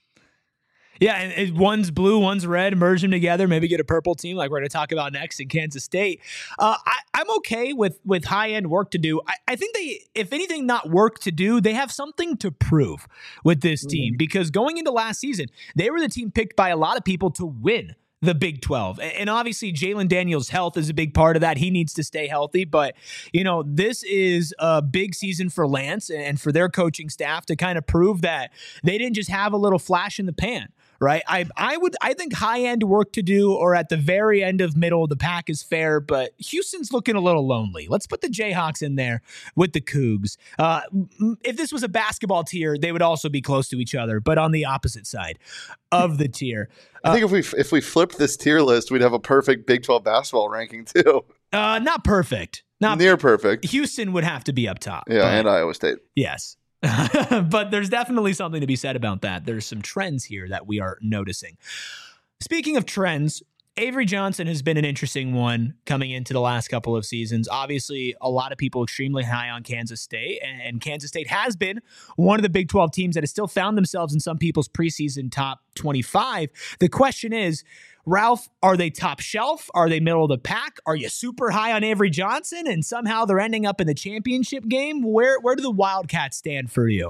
Yeah, and one's blue, one's red. Merge them together, maybe get a purple team like we're going to talk about next in Kansas State. I'm okay with high-end work to do. I think they, if anything, not work to do, they have something to prove with this team because going into last season, they were the team picked by a lot of people to win the Big 12. And obviously Jalen Daniels' health is a big part of that. He needs to stay healthy, but this is a big season for Lance and for their coaching staff to kind of prove that they didn't just have a little flash in the pan. Right. I think high end work to do or at the very end of middle of the pack is fair, but Houston's looking a little lonely. Let's put the Jayhawks in there with the Cougs. If this was a basketball tier, they would also be close to each other, but on the opposite side of the tier. I think if we flipped this tier list, we'd have a perfect Big 12 basketball ranking too. Not perfect. Not near perfect. Houston would have to be up top. Yeah, and Iowa State. Yes. But there's definitely something to be said about that. There's some trends here that we are noticing. Speaking of trends, Avery Johnson has been an interesting one coming into the last couple of seasons. Obviously, a lot of people extremely high on Kansas State, and Kansas State has been one of the Big 12 teams that has still found themselves in some people's preseason top 25. The question is, Ralph, are they top shelf? Are they middle of the pack? Are you super high on Avery Johnson and somehow they're ending up in the championship game? Where do the Wildcats stand for you?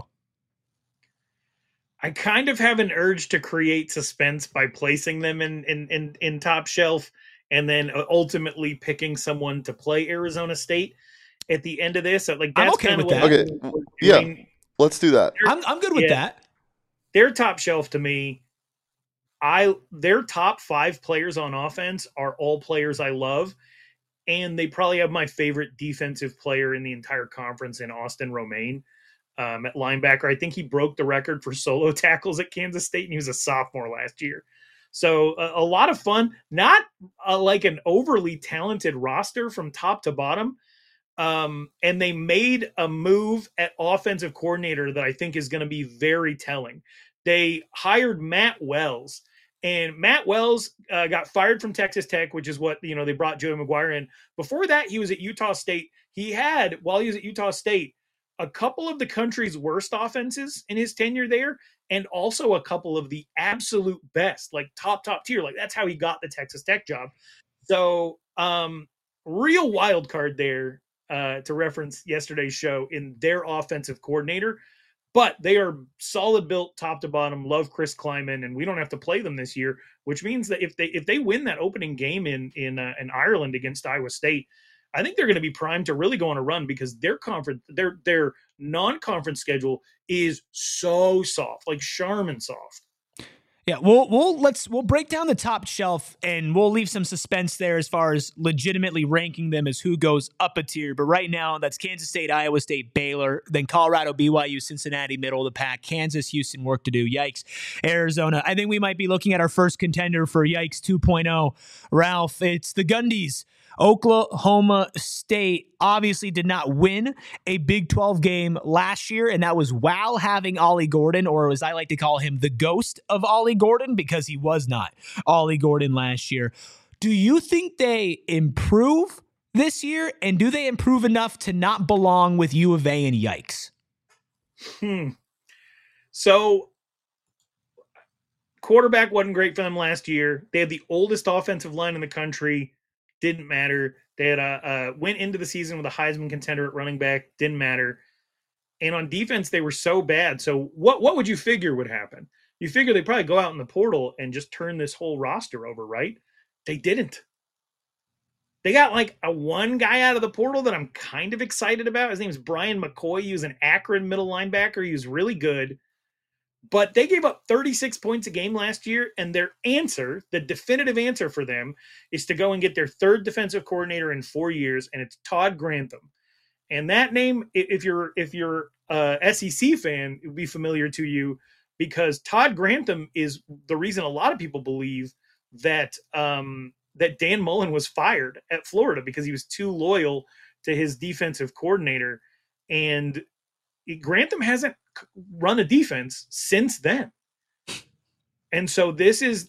I kind of have an urge to create suspense by placing them in top shelf and then ultimately picking someone to play Arizona State at the end of this. Like that's I'm okay kind with of that. Okay, yeah, let's do that. I'm good with that. They're top shelf to me. Their top 5 players on offense are all players I love, and they probably have my favorite defensive player in the entire conference in Austin Romaine at linebacker. I think he broke the record for solo tackles at Kansas State, and he was a sophomore last year. So a lot of fun, not like an overly talented roster from top to bottom. And they made a move at offensive coordinator that I think is going to be very telling. They hired Matt Wells. And Matt Wells got fired from Texas Tech, which is what, they brought Joey McGuire in. Before that, he was at Utah State. He had, while he was at Utah State, a couple of the country's worst offenses in his tenure there, and also a couple of the absolute best, like top tier. Like that's how he got the Texas Tech job. So real wild card there. to reference yesterday's show, in their offensive coordinator. But they are solid built top to bottom. Love Chris Kleiman, and we don't have to play them this year, which means that if they win that opening game in Ireland against Iowa State, I think they're going to be primed to really go on a run, because their non-conference schedule is so soft, like Charmin soft. Yeah, we'll break down the top shelf, and we'll leave some suspense there as far as legitimately ranking them as who goes up a tier. But right now, that's Kansas State, Iowa State, Baylor, then Colorado, BYU, Cincinnati, middle of the pack, Kansas, Houston, work to do. Yikes, Arizona. I think we might be looking at our first contender for Yikes 2.0. Ralph, it's the Gundies. Oklahoma State obviously did not win a Big 12 game last year, and that was while having Ollie Gordon, or as I like to call him, the ghost of Ollie Gordon, because he was not Ollie Gordon last year. Do you think they improve this year, and do they improve enough to not belong with U of A and Yikes? So, quarterback wasn't great for them last year. They had the oldest offensive line in the country. Didn't matter. They had went into the season with a Heisman contender at running back. Didn't matter. And on defense, they were so bad. So what would you figure would happen? You figure they'd probably go out in the portal and just turn this whole roster over, right? They didn't. They got like a one guy out of the portal that I'm kind of excited about. His name is Brian McCoy. He was an Akron middle linebacker. He was really good. But they gave up 36 points a game last year, and their answer, the definitive answer for them, is to go and get their third defensive coordinator in 4 years, and it's Todd Grantham. And that name, if you're a SEC fan, it would be familiar to you, because Todd Grantham is the reason a lot of people believe that that Dan Mullen was fired at Florida, because he was too loyal to his defensive coordinator, and Grantham hasn't run a defense since then. And so this is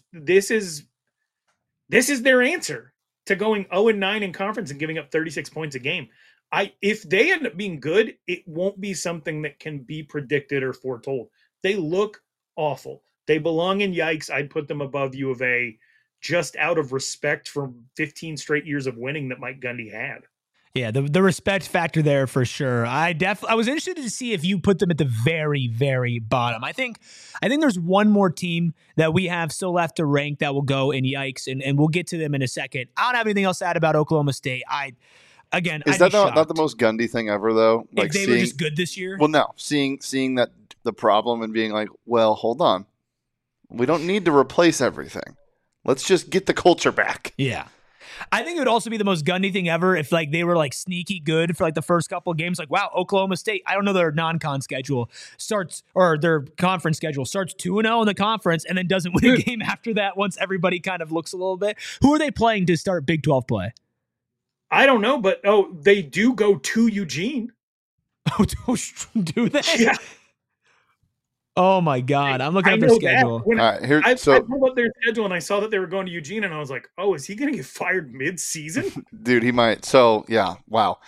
their answer to going 0-9 in conference and giving up 36 points a game. If they end up being good, it won't be something that can be predicted or foretold. They look awful. They belong in Yikes. I'd put them above U of A, just out of respect for 15 straight years of winning that Mike Gundy had. Yeah, the respect factor there for sure. I was interested to see if you put them at the very, very bottom. I think there's one more team that we have still left to rank that will go in Yikes, and we'll get to them in a second. I don't have anything else to add about Oklahoma State. Is that not the most Gundy thing ever, though? Like, if they were just good this year? Well, no. Seeing that the problem and being like, well, hold on. We don't need to replace everything. Let's just get the culture back. Yeah. I think it would also be the most Gundy thing ever if like they were like sneaky good for like the first couple of games. Like, wow, Oklahoma State, I don't know their non-con schedule starts, or their conference schedule starts 2-0 in the conference and then doesn't win a game after that once everybody kind of looks a little bit. Who are they playing to start Big 12 play? I don't know, but they do go to Eugene. Oh, do they? Yeah. Oh my God! I'm looking at their schedule. I pulled up their schedule and I saw that they were going to Eugene, and I was like, "Oh, is he going to get fired mid-season?" Dude, he might. So yeah, wow.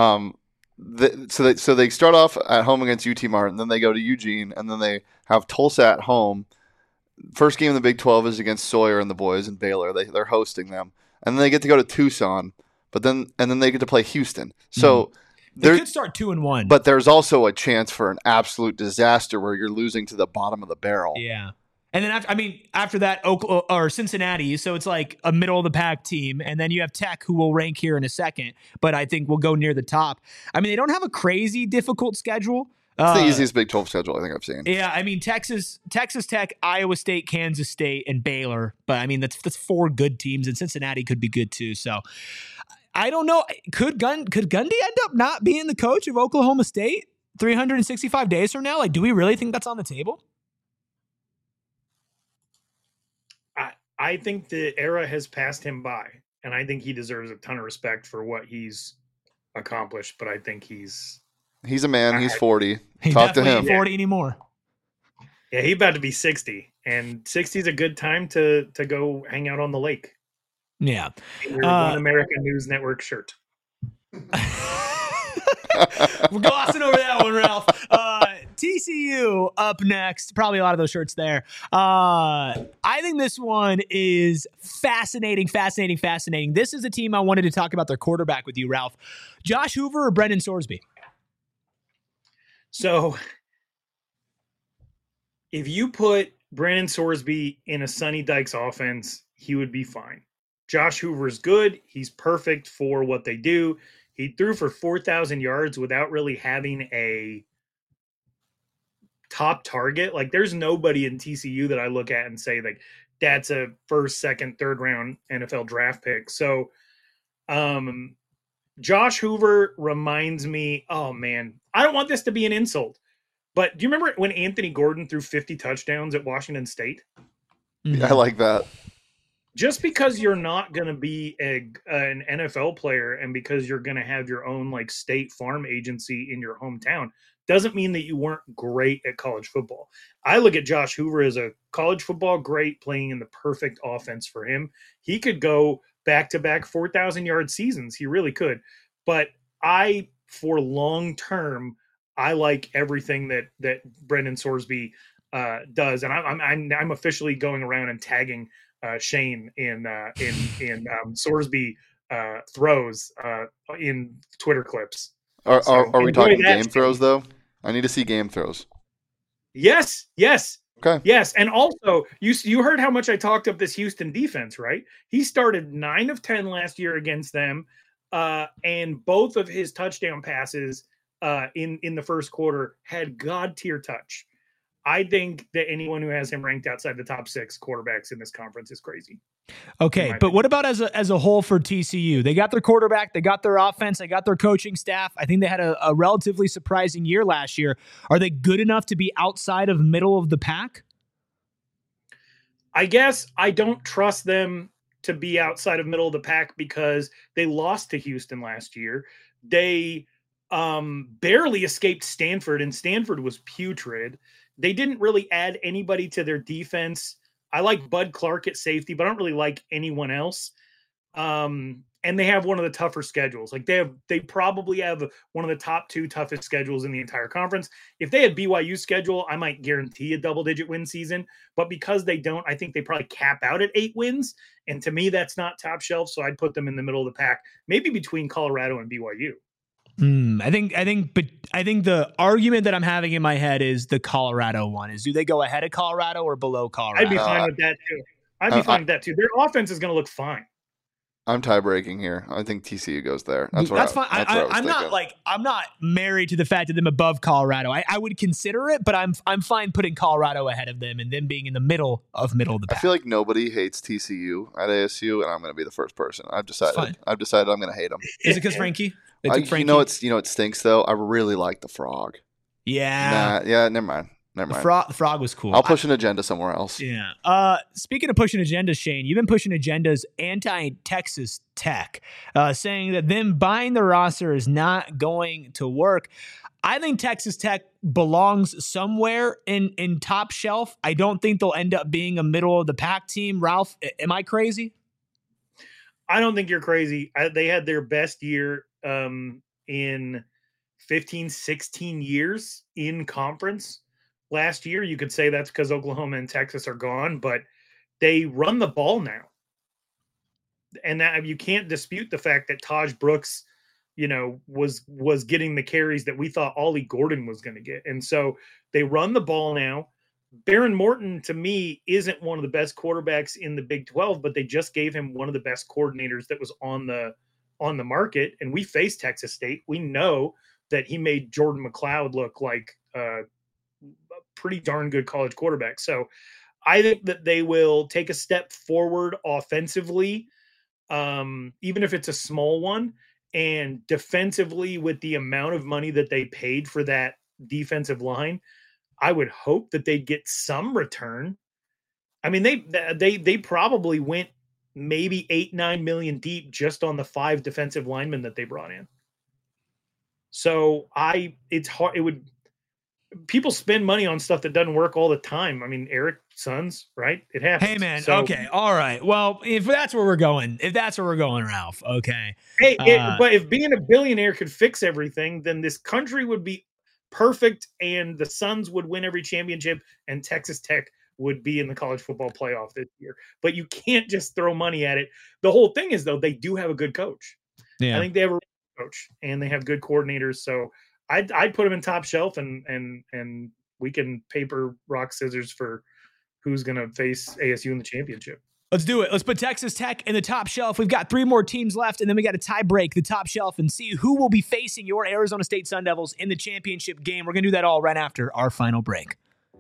So they start off at home against UT Martin, then they go to Eugene, and then they have Tulsa at home. First game in the Big 12 is against Sawyer and the boys in Baylor. They're hosting them, and then they get to go to Tucson, and then they get to play Houston. So. They could start 2-1, but there's also a chance for an absolute disaster where you're losing to the bottom of the barrel. Yeah, and then after that, Oklahoma or Cincinnati, so it's like a middle of the pack team, and then you have Tech, who will rank here in a second, but I think will go near the top. I mean, they don't have a crazy difficult schedule. It's the easiest Big 12 schedule I think I've seen. Yeah, I mean Texas Tech, Iowa State, Kansas State, and Baylor, but I mean that's 4 good teams, and Cincinnati could be good too. So. I don't know. Could Gundy end up not being the coach of Oklahoma State 365 days from now? Like, do we really think that's on the table? I think the era has passed him by, and I think he deserves a ton of respect for what he's accomplished. But I think he's a man. He's 40. He's Talk to him. Not 40 anymore. Yeah, he's about to be 60, and 60 is a good time to go hang out on the lake. Yeah. One American News Network shirt. We're glossing over that one, Ralph. TCU up next. Probably a lot of those shirts there. I think this one is fascinating. This is a team I wanted to talk about their quarterback with you, Ralph. Josh Hoover or Brendan Sorsby? So if you put Brandon Sorsby in a Sonny Dykes offense, he would be fine. Josh Hoover's good. He's perfect for what they do. He threw for 4,000 yards without really having a top target. Like, there's nobody in TCU that I look at and say, like, that's a first, second, third round NFL draft pick. So Josh Hoover reminds me, oh man, I don't want this to be an insult, but do you remember when Anthony Gordon threw 50 touchdowns at Washington State? I like that. Just because you're not going to be an NFL player and because you're going to have your own like state farm agency in your hometown doesn't mean that you weren't great at college football. I look at Josh Hoover as a college football great, playing in the perfect offense for him. He could go back-to-back 4,000-yard seasons. He really could. But for long term, I like everything that Brendan Sorsby does, and I'm officially going around and tagging Shane in Sorsby throws in Twitter clips. Are we talking game throws though? I need to see game throws. Yes. Okay. Yes, and also you heard how much I talked up this Houston defense, right? He started 9 of 10 last year against them, and both of his touchdown passes in the first quarter had God tier touch. I think that anyone who has him ranked outside the top 6 quarterbacks in this conference is crazy. Okay, but what about as a whole for TCU? They got their quarterback, they got their offense, they got their coaching staff. I think they had a relatively surprising year last year. Are they good enough to be outside of middle of the pack? I guess I don't trust them to be outside of middle of the pack because they lost to Houston last year. They barely escaped Stanford, and Stanford was putrid. They didn't really add anybody to their defense. I like Bud Clark at safety, but I don't really like anyone else. And they have one of the tougher schedules. Like they probably have one of the top 2 toughest schedules in the entire conference. If they had BYU's schedule, I might guarantee a double-digit win season. But because they don't, I think they probably cap out at 8 wins. And to me, that's not top shelf. So I'd put them in the middle of the pack, maybe between Colorado and BYU. I think the argument that I'm having in my head is the Colorado one. Is do they go ahead of Colorado or below Colorado? I'd be fine with that too. Their offense is going to look fine. I'm tie breaking here. I think TCU goes there. That's fine. I'm not married to the fact of them above Colorado. I would consider it, but I'm fine putting Colorado ahead of them and them being in the middle of the pack. I feel like nobody hates TCU at ASU, and I'm going to be the first person. I've decided I'm going to hate them. Is it because Frankie? You know it stinks though. I really like the Frog. Yeah. Never mind. The frog was cool. I'll push an agenda somewhere else. Yeah. Speaking of pushing agendas, Shane, you've been pushing agendas anti-Texas Tech, saying that them buying the roster is not going to work. I think Texas Tech belongs somewhere in top shelf. I don't think they'll end up being a middle of the pack team. Ralph, am I crazy? I don't think you're crazy. They had their best year in 15, 16 years in conference. Last year, you could say that's because Oklahoma and Texas are gone, but they run the ball now. And that you can't dispute the fact that Taj Brooks, was getting the carries that we thought Ollie Gordon was going to get. And so they run the ball now. Baron Morton, to me, isn't one of the best quarterbacks in the Big 12, but they just gave him one of the best coordinators that was on the market. And we faced Texas State. We know that he made Jordan McLeod look like a pretty darn good college quarterback. So I think that they will take a step forward offensively, even if it's a small one, and defensively with the amount of money that they paid for that defensive line. I would hope that they'd get some return. I mean, they probably went maybe 8-9 million deep just on the 5 defensive linemen that they brought in. So it's hard. People spend money on stuff that doesn't work all the time. I mean, Eric Sons, right? It happens. Hey man. Okay. All right. Well, if that's where we're going, Ralph. Okay. Hey, but if being a billionaire could fix everything, then this country would be perfect, and the Suns would win every championship, and Texas Tech would be in the college football playoff this year. But you can't just throw money at it. The whole thing is, though, they do have a good coach. Yeah. I think they have a coach, and they have good coordinators. So I'd put them in top shelf, and we can paper, rock, scissors for who's going to face ASU in the championship. Let's do it. Let's put Texas Tech in the top shelf. We've got 3 more teams left, and then we got to tie break the top shelf and see who will be facing your Arizona State Sun Devils in the championship game. We're going to do that all right after our final break.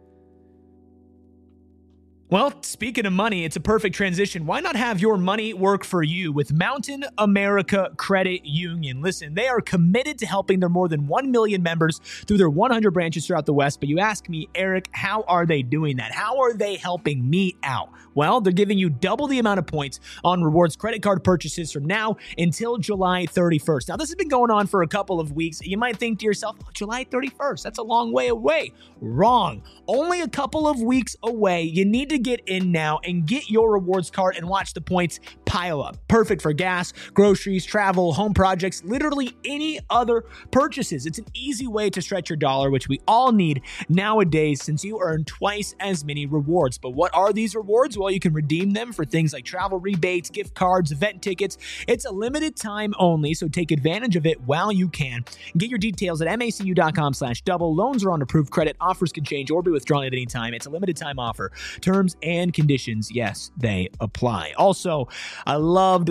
Well, speaking of money, it's a perfect transition. Why not have your money work for you with Mountain America Credit Union? Listen, they are committed to helping their more than 1 million members through their 100 branches throughout the West. But you ask me, Eric, how are they doing that? How are they helping me out? Well, they're giving you double the amount of points on rewards credit card purchases from now until July 31st. Now, this has been going on for a couple of weeks. You might think to yourself, oh, July 31st, that's a long way away. Wrong. Only a couple of weeks away. You need to get in now and get your rewards card and watch the points pile up. Perfect for gas, groceries, travel, home projects, literally any other purchases. It's an easy way to stretch your dollar, which we all need nowadays since you earn twice as many rewards. But what are these rewards? Well, you can redeem them for things like travel rebates, gift cards, event tickets. It's a limited time only, so take advantage of it while you can. Get your details at macu.com/double. Loans are on approved credit. Offers can change or be withdrawn at any time. It's a limited time offer. Terms and conditions, yes, they apply. Also, I loved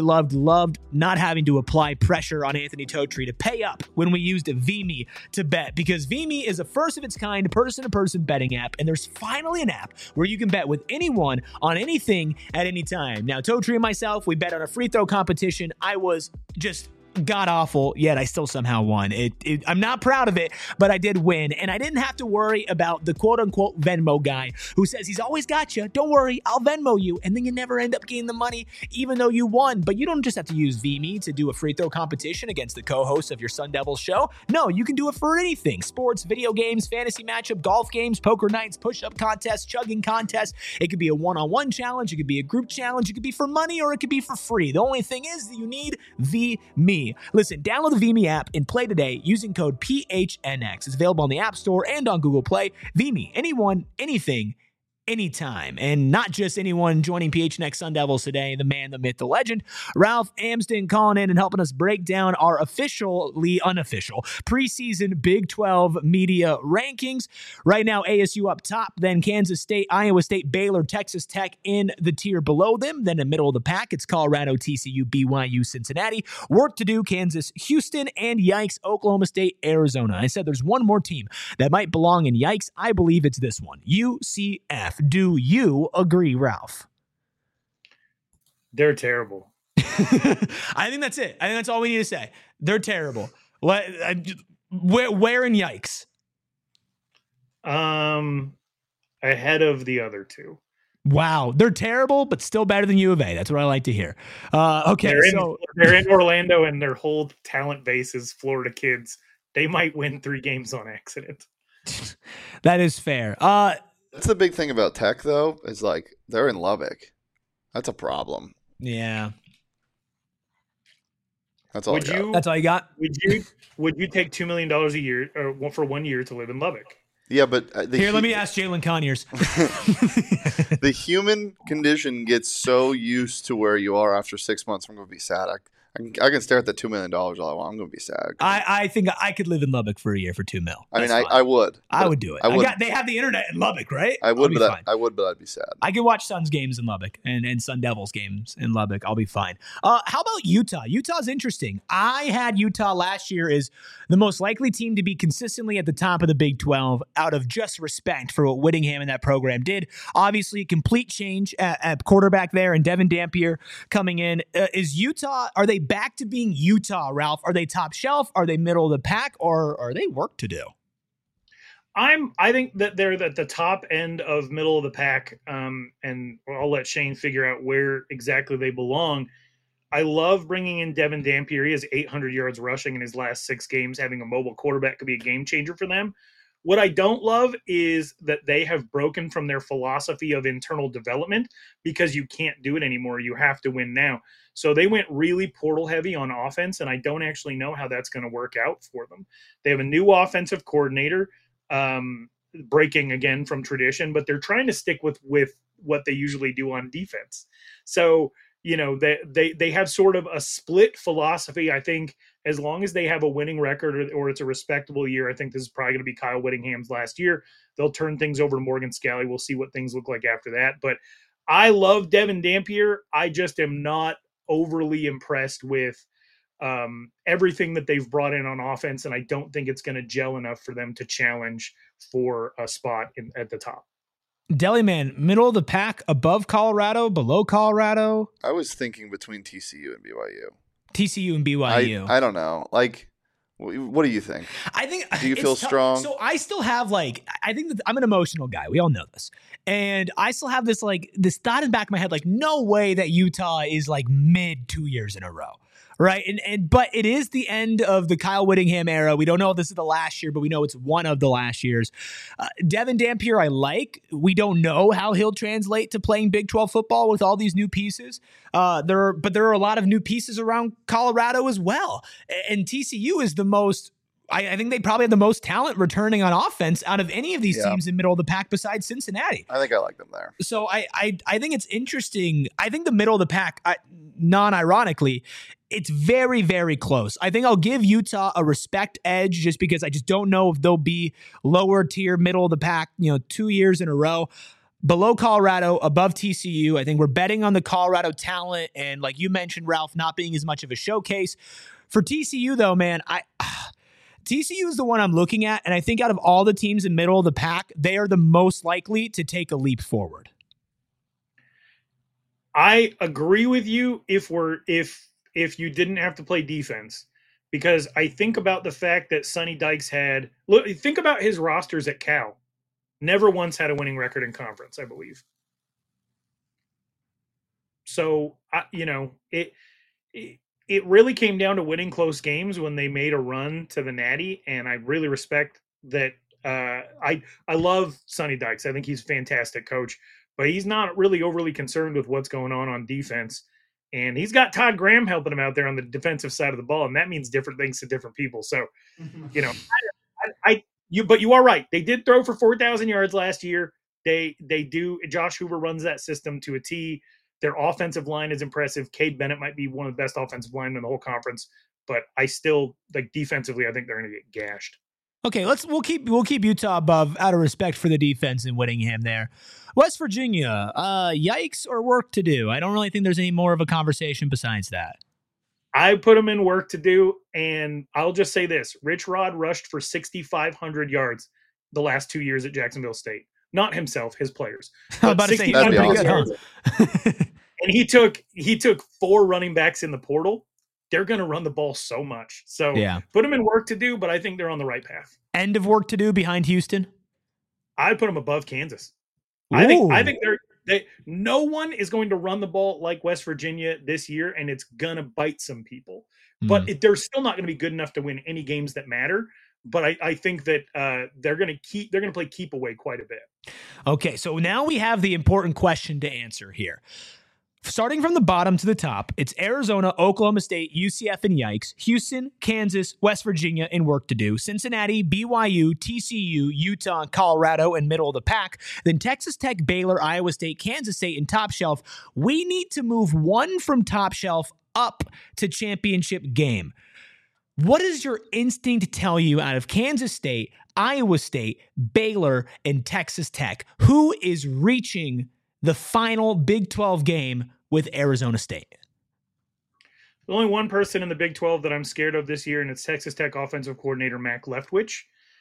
not having to apply pressure on Anthony Totri to pay up when we used VMe to bet, because VMe is a first of its kind person-to-person betting app, and there's finally an app where you can bet with anyone on anything at any time. Now, Totri and myself, we bet on a free throw competition. I was just god awful, yet I still somehow won. I'm not proud of it, but I did win, and I didn't have to worry about the quote-unquote Venmo guy who says he's always got you. Don't worry, I'll Venmo you, and then you never end up getting the money, even though you won. But you don't just have to use VMe to do a free throw competition against the co-host of your Sun Devils show. No, you can do it for anything: sports, video games, fantasy matchup, golf games, poker nights, push-up contests, chugging contests. It could be a one-on-one challenge, it could be a group challenge, it could be for money, or it could be for free. The only thing is that you need VMe. Listen, download the VMe app and play today using code PHNX. It's available on the App Store and on Google Play. VMe, anyone, anything, anytime. And not just anyone joining PHNX Sun Devils today, the man, the myth, the legend, Ralph Amsden, calling in and helping us break down our officially unofficial preseason Big 12 media rankings. Right now, ASU up top, then Kansas State, Iowa State, Baylor, Texas Tech in the tier below them. Then in the middle of the pack, it's Colorado, TCU, BYU, Cincinnati. Work to do, Kansas, Houston, and yikes, Oklahoma State, Arizona. I said there's one more team that might belong in yikes. I believe it's this one, UCF. Do you agree, Ralph? They're terrible. I think that's it. I think that's all we need to say. They're terrible. Where in yikes? Ahead of the other two. Wow, they're terrible, but still better than U of A. That's what I like to hear. Okay, they're in Orlando, and their whole talent base is Florida kids. They might win 3 games on accident. That is fair. That's the big thing about Tech, though, is like they're in Lubbock. That's a problem. Yeah. That's all. That's all you got. Would you take $2 million a year or for 1 year to live in Lubbock? Yeah, but let me ask Jalen Conyers. The human condition gets so used to where you are after 6 months. I'm going to be sad. I can stare at that $2 million all I want. I'm going to be sad. I think I could live in Lubbock for a year for $2 million. I mean, I would. I would do it. They have the internet in Lubbock, right? I would, but I'd be sad. I can watch Suns games in Lubbock and Sun Devils games in Lubbock. I'll be fine. How about Utah? Utah's interesting. I had Utah last year as the most likely team to be consistently at the top of the Big 12 out of just respect for what Whittingham and that program did. Obviously, a complete change at quarterback there, and Devin Dampier coming in. Is Utah, are they back to being Utah, Ralph? Are they top shelf? Are they middle of the pack? Or are they work to do? I think that they're at the top end of middle of the pack, and I'll let Shane figure out where exactly they belong. I love bringing in Devin Dampier. He has 800 yards rushing in his last 6 games. Having a mobile quarterback could be a game changer for them. What I don't love is that they have broken from their philosophy of internal development because you can't do it anymore. You have to win now. So they went really portal heavy on offense, and I don't actually know how that's going to work out for them. They have a new offensive coordinator, breaking again from tradition, but they're trying to stick with what they usually do on defense. So, they have sort of a split philosophy. I think as long as they have a winning record or it's a respectable year, I think this is probably going to be Kyle Whittingham's last year. They'll turn things over to Morgan Scalley. We'll see what things look like after that. But I love Devin Dampier. I just am not overly impressed with everything that they've brought in on offense, and I don't think it's going to gel enough for them to challenge for a spot at the top. Deli Man, middle of the pack, above Colorado, below Colorado? I was thinking between TCU and BYU. TCU and BYU. I don't know. Like, what do you think? I think. Do you feel strong? So I still have I think that I'm an emotional guy. We all know this. And I still have this thought in the back of my head, no way that Utah is mid 2 years in a row. Right. But it is the end of the Kyle Whittingham era. We don't know if this is the last year, but we know it's one of the last years. Devin Dampier, I like. We don't know how he'll translate to playing Big 12 football with all these new pieces. There are a lot of new pieces around Colorado as well. And TCU is the most. I think they probably have the most talent returning on offense out of any of these teams in middle of the pack besides Cincinnati. I think I like them there. So I think it's interesting. I think the middle of the pack, non-ironically, it's very, very close. I think I'll give Utah a respect edge just because I just don't know if they'll be lower tier, middle of the pack, 2 years in a row. Below Colorado, above TCU. I think we're betting on the Colorado talent and, like you mentioned, Ralph, not being as much of a showcase. For TCU, though, man, TCU is the one I'm looking at, and I think out of all the teams in middle of the pack, they are the most likely to take a leap forward. I agree with you if you didn't have to play defense, because I think about the fact that Sonny Dykes think about his rosters at Cal. Never once had a winning record in conference, I believe. So, it really came down to winning close games when they made a run to the Natty, and I really respect that. I love Sonny Dykes. I think he's a fantastic coach, but he's not really overly concerned with what's going on defense. And he's got Todd Graham helping him out there on the defensive side of the ball, and that means different things to different people. So, but you are right. They did throw for 4,000 yards last year. They do. Josh Hoover runs that system to a T. Their offensive line is impressive. Cade Bennett might be one of the best offensive linemen in the whole conference, but I still defensively, I think they're going to get gashed. Okay, we'll keep Utah above out of respect for the defense in Whittingham there. West Virginia, yikes or work to do? I don't really think there's any more of a conversation besides that. I put them in work to do, and I'll just say this. Rich Rod rushed for 6,500 yards the last 2 years at Jacksonville State. Not himself, his players. I was about to say, that's pretty good, huh? And he took 4 running backs in the portal. They're going to run the ball so much. So put them in work to do, but I think they're on the right path. End of work to do behind Houston? I put them above Kansas. Ooh. I think no one is going to run the ball like West Virginia this year, and it's going to bite some people. But they're still not going to be good enough to win any games that matter. But I think that they're going to play keep away quite a bit. Okay, so now we have the important question to answer here. Starting from the bottom to the top, it's Arizona, Oklahoma State, UCF, and yikes. Houston, Kansas, West Virginia, and work to do. Cincinnati, BYU, TCU, Utah, and Colorado, and middle of the pack. Then Texas Tech, Baylor, Iowa State, Kansas State, and top shelf. We need to move one from top shelf up to championship game. What does your instinct tell you out of Kansas State, Iowa State, Baylor, and Texas Tech? Who is reaching the final Big 12 game with Arizona State? There's only one person in the Big 12 that I'm scared of this year, and it's Texas Tech offensive coordinator Mac Leftwich.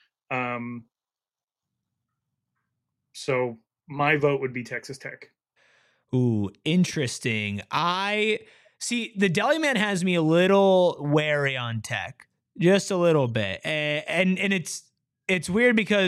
So my vote would be Texas Tech. Ooh, interesting. The Deli Man has me a little wary on Tech, just a little bit, and it's weird because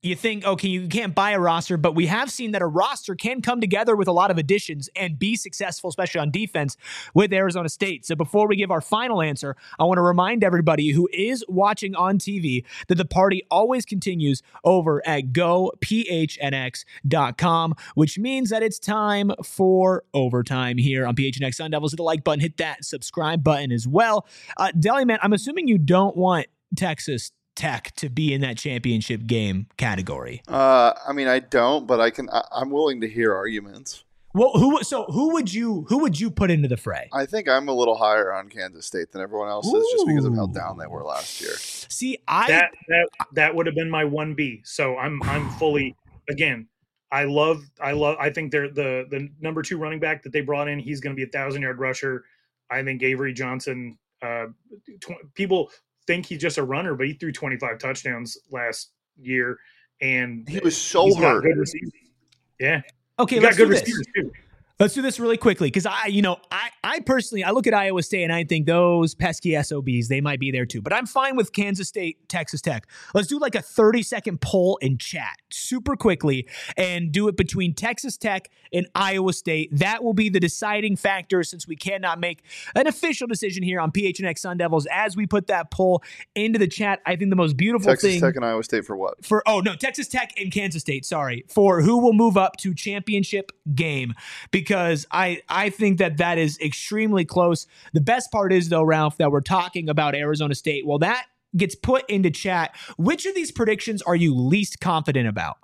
you think, okay, you can't buy a roster, but we have seen that a roster can come together with a lot of additions and be successful, especially on defense with Arizona State. So before we give our final answer, I want to remind everybody who is watching on TV that the party always continues over at gophnx.com, which means that it's time for overtime here on PHNX Sun Devils. Hit the like button, hit that subscribe button as well. Deli Man, I'm assuming you don't want Texas Tech to be in that championship game category. I mean, I don't, but I'm willing to hear arguments. Well, who would you put into the fray? I think I'm a little higher on Kansas State than everyone else is, just because of how down they were last year. See, that would have been my 1B. So I'm fully, again, I think they're the number 2 running back that they brought in. He's going to be 1,000-yard rusher. I think Avery Johnson. People think he's just a runner, but he threw 25 touchdowns last year, and he was so hurt. Good receivers. Yeah. Okay, let's do this. Let's do this really quickly because I personally look at Iowa State and I think those pesky SOBs, they might be there too. But I'm fine with Kansas State, Texas Tech. Let's do like a 30-second poll in chat super quickly and do it between Texas Tech and Iowa State. That will be the deciding factor since we cannot make an official decision here on PHNX Sun Devils as we put that poll into the chat. I think the most beautiful thing. Texas Tech and Iowa State for what? Texas Tech and Kansas State, sorry, for who will move up to championship game. Because I think that is extremely close. The best part is, though, Ralph, that we're talking about Arizona State. Well, that gets put into chat. Which of these predictions are you least confident about?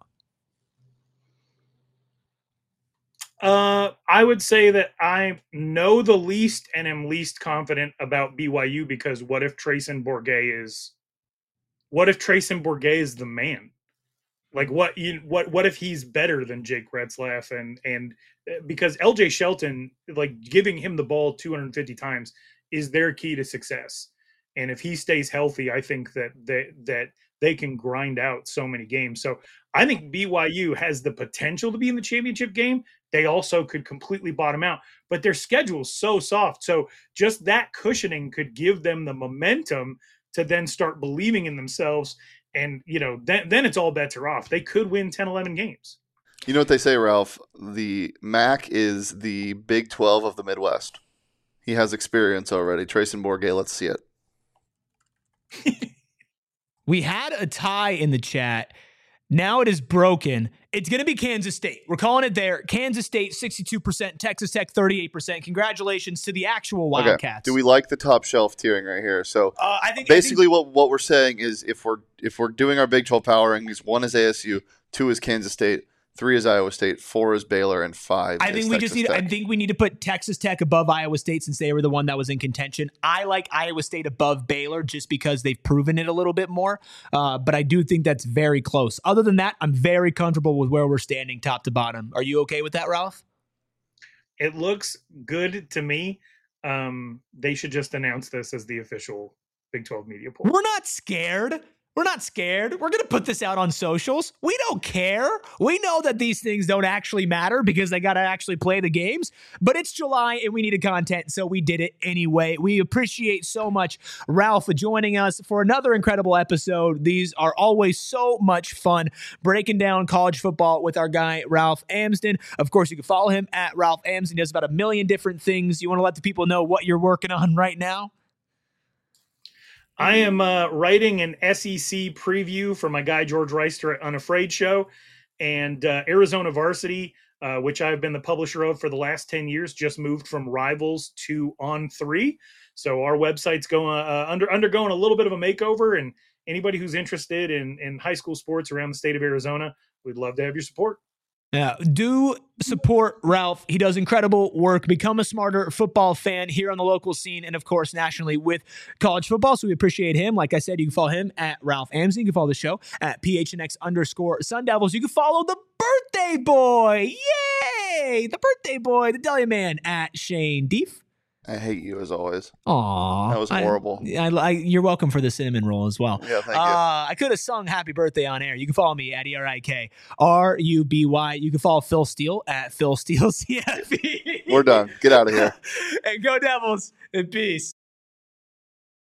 I would say that I know the least and am least confident about BYU because what if Trayson Bourget is the man? Like what if he's better than Jake Retzlaff and because LJ Shelton, like giving him the ball 250 times is their key to success. And if he stays healthy, I think that they can grind out so many games. So I think BYU has the potential to be in the championship game. They also could completely bottom out, but their schedule is so soft. So just that cushioning could give them the momentum to then start believing in themselves. And, then it's all bets are off. They could win 10, 11 games. You know what they say, Ralph? The MAC is the Big 12 of the Midwest. He has experience already. Trayson Bourget, let's see it. We had a tie in the chat. Now it is broken. It's going to be Kansas State. We're calling it there. Kansas State, 62%. Texas Tech, 38%. Congratulations to the actual Wildcats. Okay. Do we like the top shelf tiering right here? So I think what we're saying is if we're doing our Big 12 power rankings, 1 is ASU, 2 is Kansas State, 3 is Iowa State, 4 is Baylor, and 5 I think we need to put Texas Tech above Iowa State since they were the one that was in contention. I like Iowa State above Baylor just because they've proven it a little bit more. But I do think that's very close. Other than that, I'm very comfortable with where we're standing top to bottom. Are you okay with that, Ralph? It looks good to me. They should just announce this as the official Big 12 media poll. We're not scared. We're not scared. We're going to put this out on socials. We don't care. We know that these things don't actually matter because they got to actually play the games. But it's July and we needed content, so we did it anyway. We appreciate so much Ralph joining us for another incredible episode. These are always so much fun breaking down college football with our guy, Ralph Amsden. Of course, you can follow him at Ralph Amsden. He does about 1 million different things. You want to let the people know what you're working on right now? I am writing an SEC preview for my guy George Reister at Unafraid Show, and Arizona Varsity, which I've been the publisher of for the last 10 years, just moved from Rivals to On3. So our website's going undergoing a little bit of a makeover, and anybody who's interested in high school sports around the state of Arizona, we'd love to have your support. Yeah, do support Ralph. He does incredible work. Become a smarter football fan here on the local scene and, of course, nationally with college football. So we appreciate him. Like I said, you can follow him at Ralph Amsden. You can follow the show at PHNX_Sun Devils. You can follow the birthday boy. Yay! The birthday boy, the Deli Man at Shane Deef. I hate you as always. Aw. That was horrible. You're welcome for the cinnamon roll as well. Yeah, thank you. I could have sung happy birthday on air. You can follow me at ERIKRUBY. You can follow Phil Steele at Phil Steele CFE. We're done. Get out of here. And go Devils. And peace.